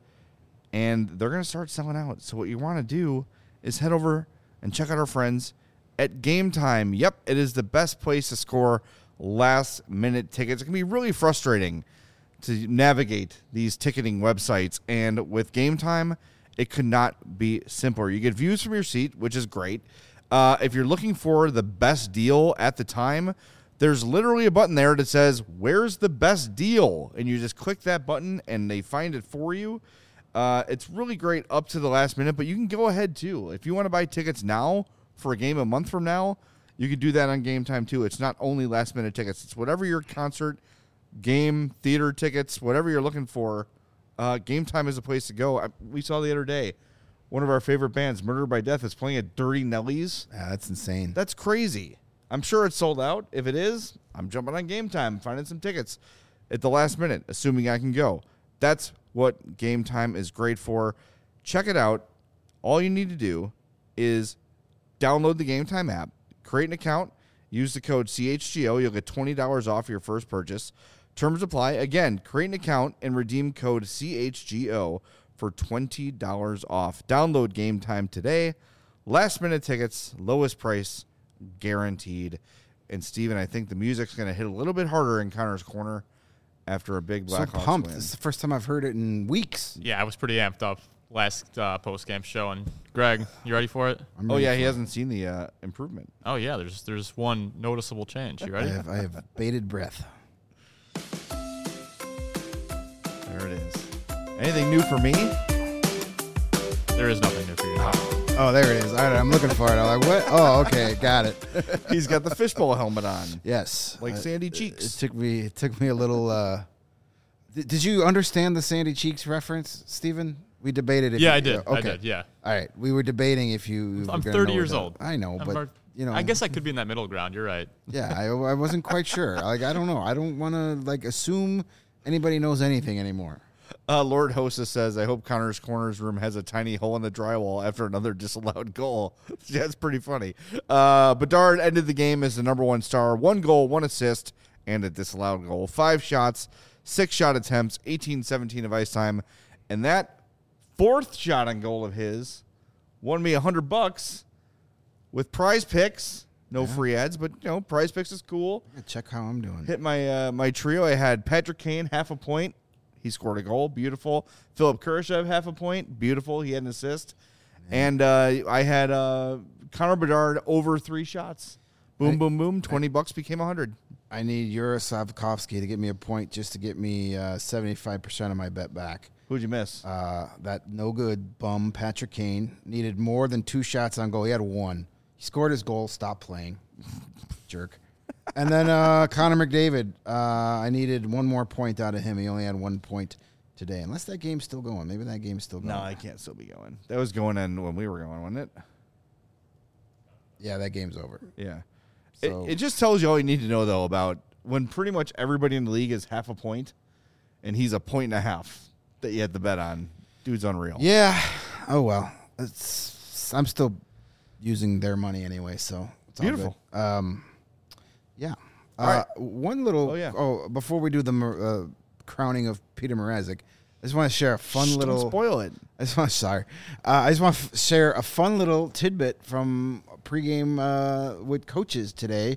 And they're going to start selling out. So what you want to do is head over and check out our friends at Game Time. Yep, it is the best place to score last-minute tickets. It can be really frustrating to navigate these ticketing websites, and with Game Time, it could not be simpler. You get views from your seat, which is great. If you're looking for the best deal at the time, there's literally a button there that says, "Where's the best deal?" And you just click that button, and they find it for you. It's really great up to the last minute, but you can go ahead, too. If you want to buy tickets now for a game a month from now, you could do that on Game Time, too. It's not only last-minute tickets. It's whatever your concert, game, theater tickets, whatever you're looking for, Game Time is a place to go. We saw the other day, one of our favorite bands, Murder by Death, is playing at Dirty Nelly's. Yeah, that's insane. That's crazy. I'm sure it's sold out. If it is, I'm jumping on Game Time, finding some tickets at the last minute, assuming I can go. That's what Game Time is great for. Check it out. All you need to do is download the Game Time app, create an account, use the code CHGO. You'll get $20 off your first purchase. Terms apply. Again, create an account and redeem code CHGO for $20 off. Download Game Time today. Last minute tickets, lowest price, guaranteed. And Steven, I think the music's going to hit a little bit harder in Connor's corner after a big Blackhawks So pumped. win. This is the first time I've heard it in weeks. Yeah, I was pretty amped up last post-game show. And Greg, you ready for it? Oh, yeah, he hasn't seen the improvement. Oh, yeah, there's one noticeable change. You ready? I have bated breath. There it is. Anything new for me? There is nothing new for you. Oh, there it is. All right, I'm looking for it. I'm like, what? Oh, okay, got it. He's got the fishbowl helmet on. Yes, Like Sandy Cheeks. It took me a little. Did you understand the Sandy Cheeks reference, Stephen? We debated. If Yeah, you, I did. Okay. I did, yeah. All right, we were debating if you. I'm were gonna 30 know years what old. I know, but I guess I could be in that middle ground. You're right. Yeah, I wasn't quite sure. Like, I don't know. I don't want to assume anybody knows anything anymore. Lord Hostess says, I hope Connor's Corners room has a tiny hole in the drywall after another disallowed goal. That's pretty funny. Bedard ended the game as the number one star. 1 goal, 1 assist, and a disallowed goal. 5 shots, 6 shot attempts, 18-17 of ice time. And that 4th shot on goal of his won me $100 with Prize Picks. No free ads, but, Prize Picks is cool. Check how I'm doing. Hit my my trio. I had Patrick Kane, half a point. He scored a goal. Beautiful. Philip Kurashev, half a point. Beautiful. He had an assist. And I had Connor Bedard over 3 shots. Boom, boom, boom. $20 became 100. I need Urosavkovsky to get me a point just to get me 75% of my bet back. Who'd you miss? That no good bum Patrick Kane needed more than 2 shots on goal. He had 1. He scored his goal. Stopped playing. Jerk. And then Connor McDavid, I needed 1 more point out of him. He only had 1 point today. Unless that game's still going. Maybe that game's still going. No, I can't still be going. That was going in when we were going, wasn't it? Yeah, that game's over. Yeah. So, It just tells you all you need to know, though, about when pretty much everybody in the league is half a point and he's a point and a half that you had to bet on. Dude's unreal. Yeah. Oh well. I'm still using their money anyway, so it's beautiful. All good. Yeah. All right. One little. Oh, yeah. Before we do the crowning of Peter Mrazek, I just want to share a fun little. Don't spoil it. I just want to share a fun little tidbit from pregame with coaches today.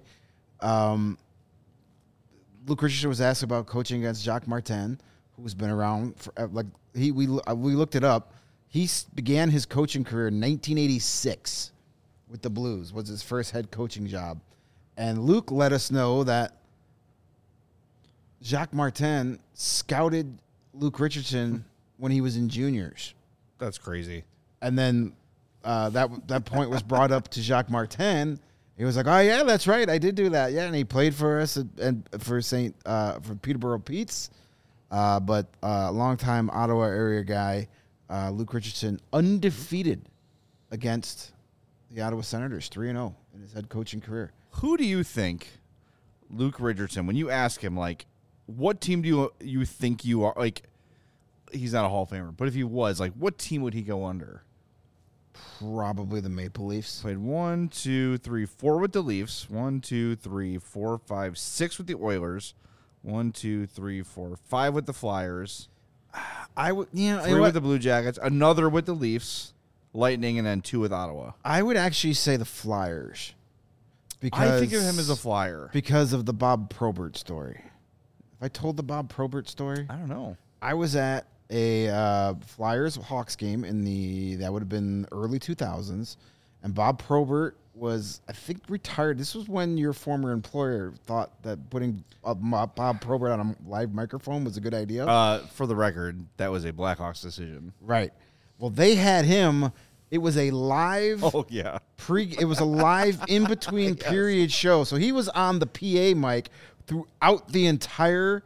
Luke Richardson was asked about coaching against Jacques Martin, who's been around for we looked it up. He began his coaching career in 1986 with the Blues. Was his first head coaching job, and Luke let us know that Jacques Martin scouted Luke Richardson when he was in juniors. That's crazy. And then that point was brought up to Jacques Martin. He was like, "Oh yeah, that's right, I did do that. Yeah," and he played for us and for Peterborough Petes, but longtime Ottawa area guy, Luke Richardson, undefeated against the Ottawa Senators, 3-0 in his head coaching career. Who do you think, Luke Richardson, when you ask him, like, what team do you think you are? Like, he's not a Hall of Famer, but if he was, like, what team would he go under? Probably the Maple Leafs. Played 1, 2, 3, 4 with the Leafs. 1, 2, 3, 4, 5, 6 with the Oilers. 1, 2, 3, 4, 5 with the Flyers. I would, 3 with the Blue Jackets. Another with the Leafs, Lightning, and then 2 with Ottawa. I would actually say the Flyers. Because I think of him as a Flyer because of the Bob Probert story. If I told the Bob Probert story, I don't know. I was at a Flyers Hawks game that would have been early 2000s, and Bob Probert was, I think, retired. This was when your former employer thought that putting Bob Probert on a live microphone was a good idea. For the record, that was a Blackhawks decision. Right. Well, they had him. It was a live. Oh yeah. It was a live in between period show. So he was on the PA mic throughout the entire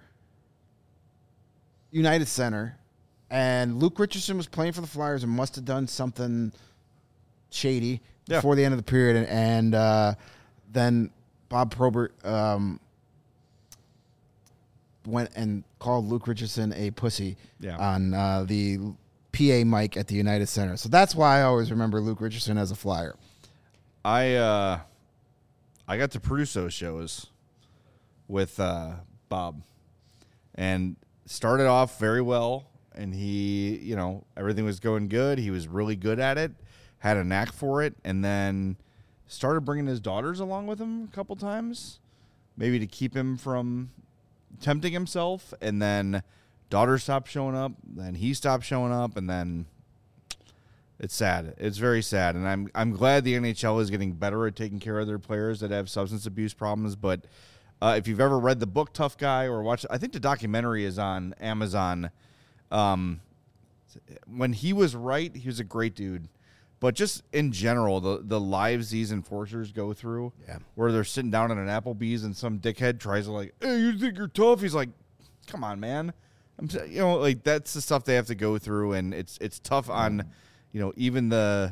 United Center. And Luke Richardson was playing for the Flyers and must have done something shady before the end of the period. And then Bob Probert went and called Luke Richardson a pussy on the PA mic at the United Center. So that's why I always remember Luke Richardson as a Flyer. I got to produce those shows with Bob and started off very well. And he, everything was going good. He was really good at it, had a knack for it, and then started bringing his daughters along with him a couple times, maybe to keep him from tempting himself. And then daughters stopped showing up, then he stopped showing up, and then it's sad. It's very sad. And I'm glad the NHL is getting better at taking care of their players that have substance abuse problems. But if you've ever read the book Tough Guy or watched, I think the documentary is on Amazon. When he was right, he was a great dude. But just in general, the lives these enforcers go through, where they're sitting down at an Applebee's and some dickhead tries to like, hey, you think you're tough? He's like, come on, man. Like that's the stuff they have to go through, and it's tough on, even the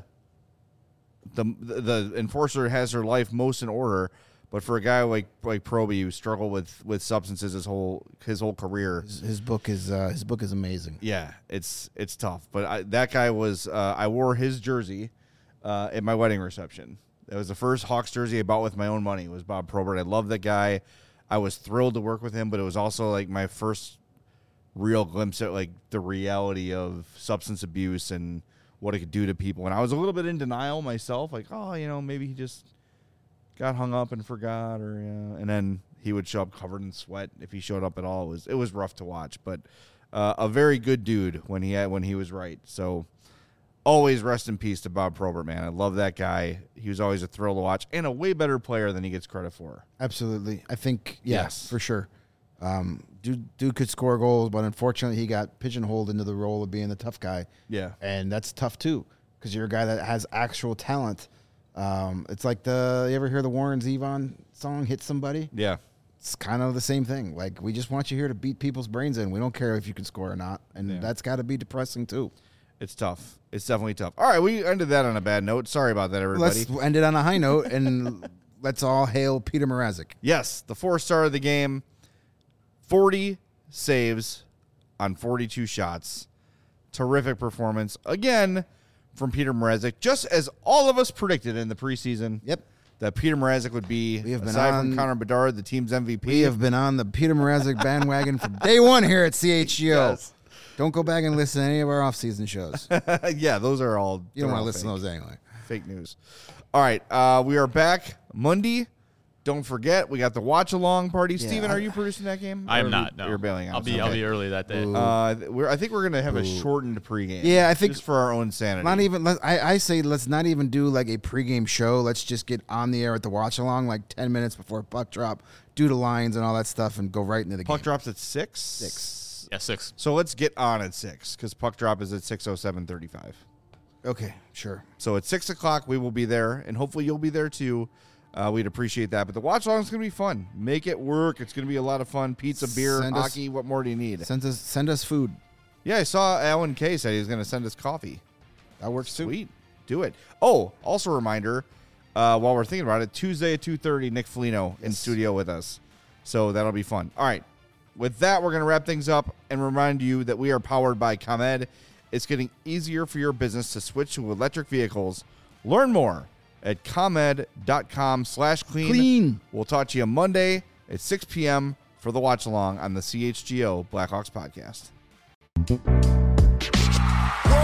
enforcer has her life most in order. But for a guy like Proby who struggled with substances his whole career, his book is amazing. Yeah, it's tough. But that guy was I wore his jersey at my wedding reception. That was the first Hawks jersey I bought with my own money. Was Bob Probert. I love that guy. I was thrilled to work with him, but it was also like my first real glimpse at like the reality of substance abuse and what it could do to people. And I was a little bit in denial myself, like, oh, maybe he just got hung up and forgot, or and then he would show up covered in sweat if he showed up at all. It was rough to watch, but a very good dude when he was right. So always rest in peace to Bob Probert, man. I love that guy. He was always a thrill to watch and a way better player than he gets credit for. Absolutely, I think yes, for sure. Dude could score goals, but unfortunately he got pigeonholed into the role of being the tough guy. Yeah, and that's tough too because you're a guy that has actual talent. It's like you ever hear the Warren Zevon song, Hit Somebody? Yeah. It's kind of the same thing. Like, we just want you here to beat people's brains in. We don't care if you can score or not. And that's got to be depressing, too. It's tough. It's definitely tough. All right, we ended that on a bad note. Sorry about that, everybody. Let's end it on a high note, and let's all hail Peter Mrazek. Yes, the 4-star of the game. 40 saves on 42 shots. terrific performance again from Peter Mrazek, just as all of us predicted in the preseason. Yep. That Peter Mrazek would be, We have been aside from on- Connor Bedard, the team's MVP. We have been on the Peter Mrazek bandwagon from day one here at CHGO. Yes. Don't go back and listen to any of our off-season shows. Yeah, those are all. You don't they're want to all listen to fake. those anyway. Fake news. All right, we are back Monday. Don't forget, we got the watch along party. Yeah, Steven, are you producing that game? I am Or not. No, You're bailing out. I'll be early that day. I think we're gonna have a shortened pregame. Yeah, I think- just for our own sanity. Not even. I say let's not even do like a pregame show. Let's just get on the air at the watch along like 10 minutes before puck drop, do the lines and all that stuff, and go right into the Puck game. drops at 6? 6. Yeah, 6. So let's get on at 6 because puck drop is at 6:07:35. Okay, sure. So at 6 o'clock we will be there, and hopefully you'll be there too. We'd appreciate that. But the watch along is going to be fun. Make it work. It's going to be a lot of fun. Pizza, beer, Send us- hockey. What more do you need? Send us food. Yeah, I saw Alan Kay said he was going to send us coffee. That works too. Sweet. Do it. Oh, also a reminder, while we're thinking about it, Tuesday at 2:30, Nick Foligno in studio with us. So that'll be fun. All right. With that, we're going to wrap things up and remind you that we are powered by ComEd. It's getting easier for your business to switch to electric vehicles. Learn more at ComEd.com/clean. Clean. We'll talk to you Monday at 6 p.m. for the watch along on the CHGO Blackhawks podcast. Whoa.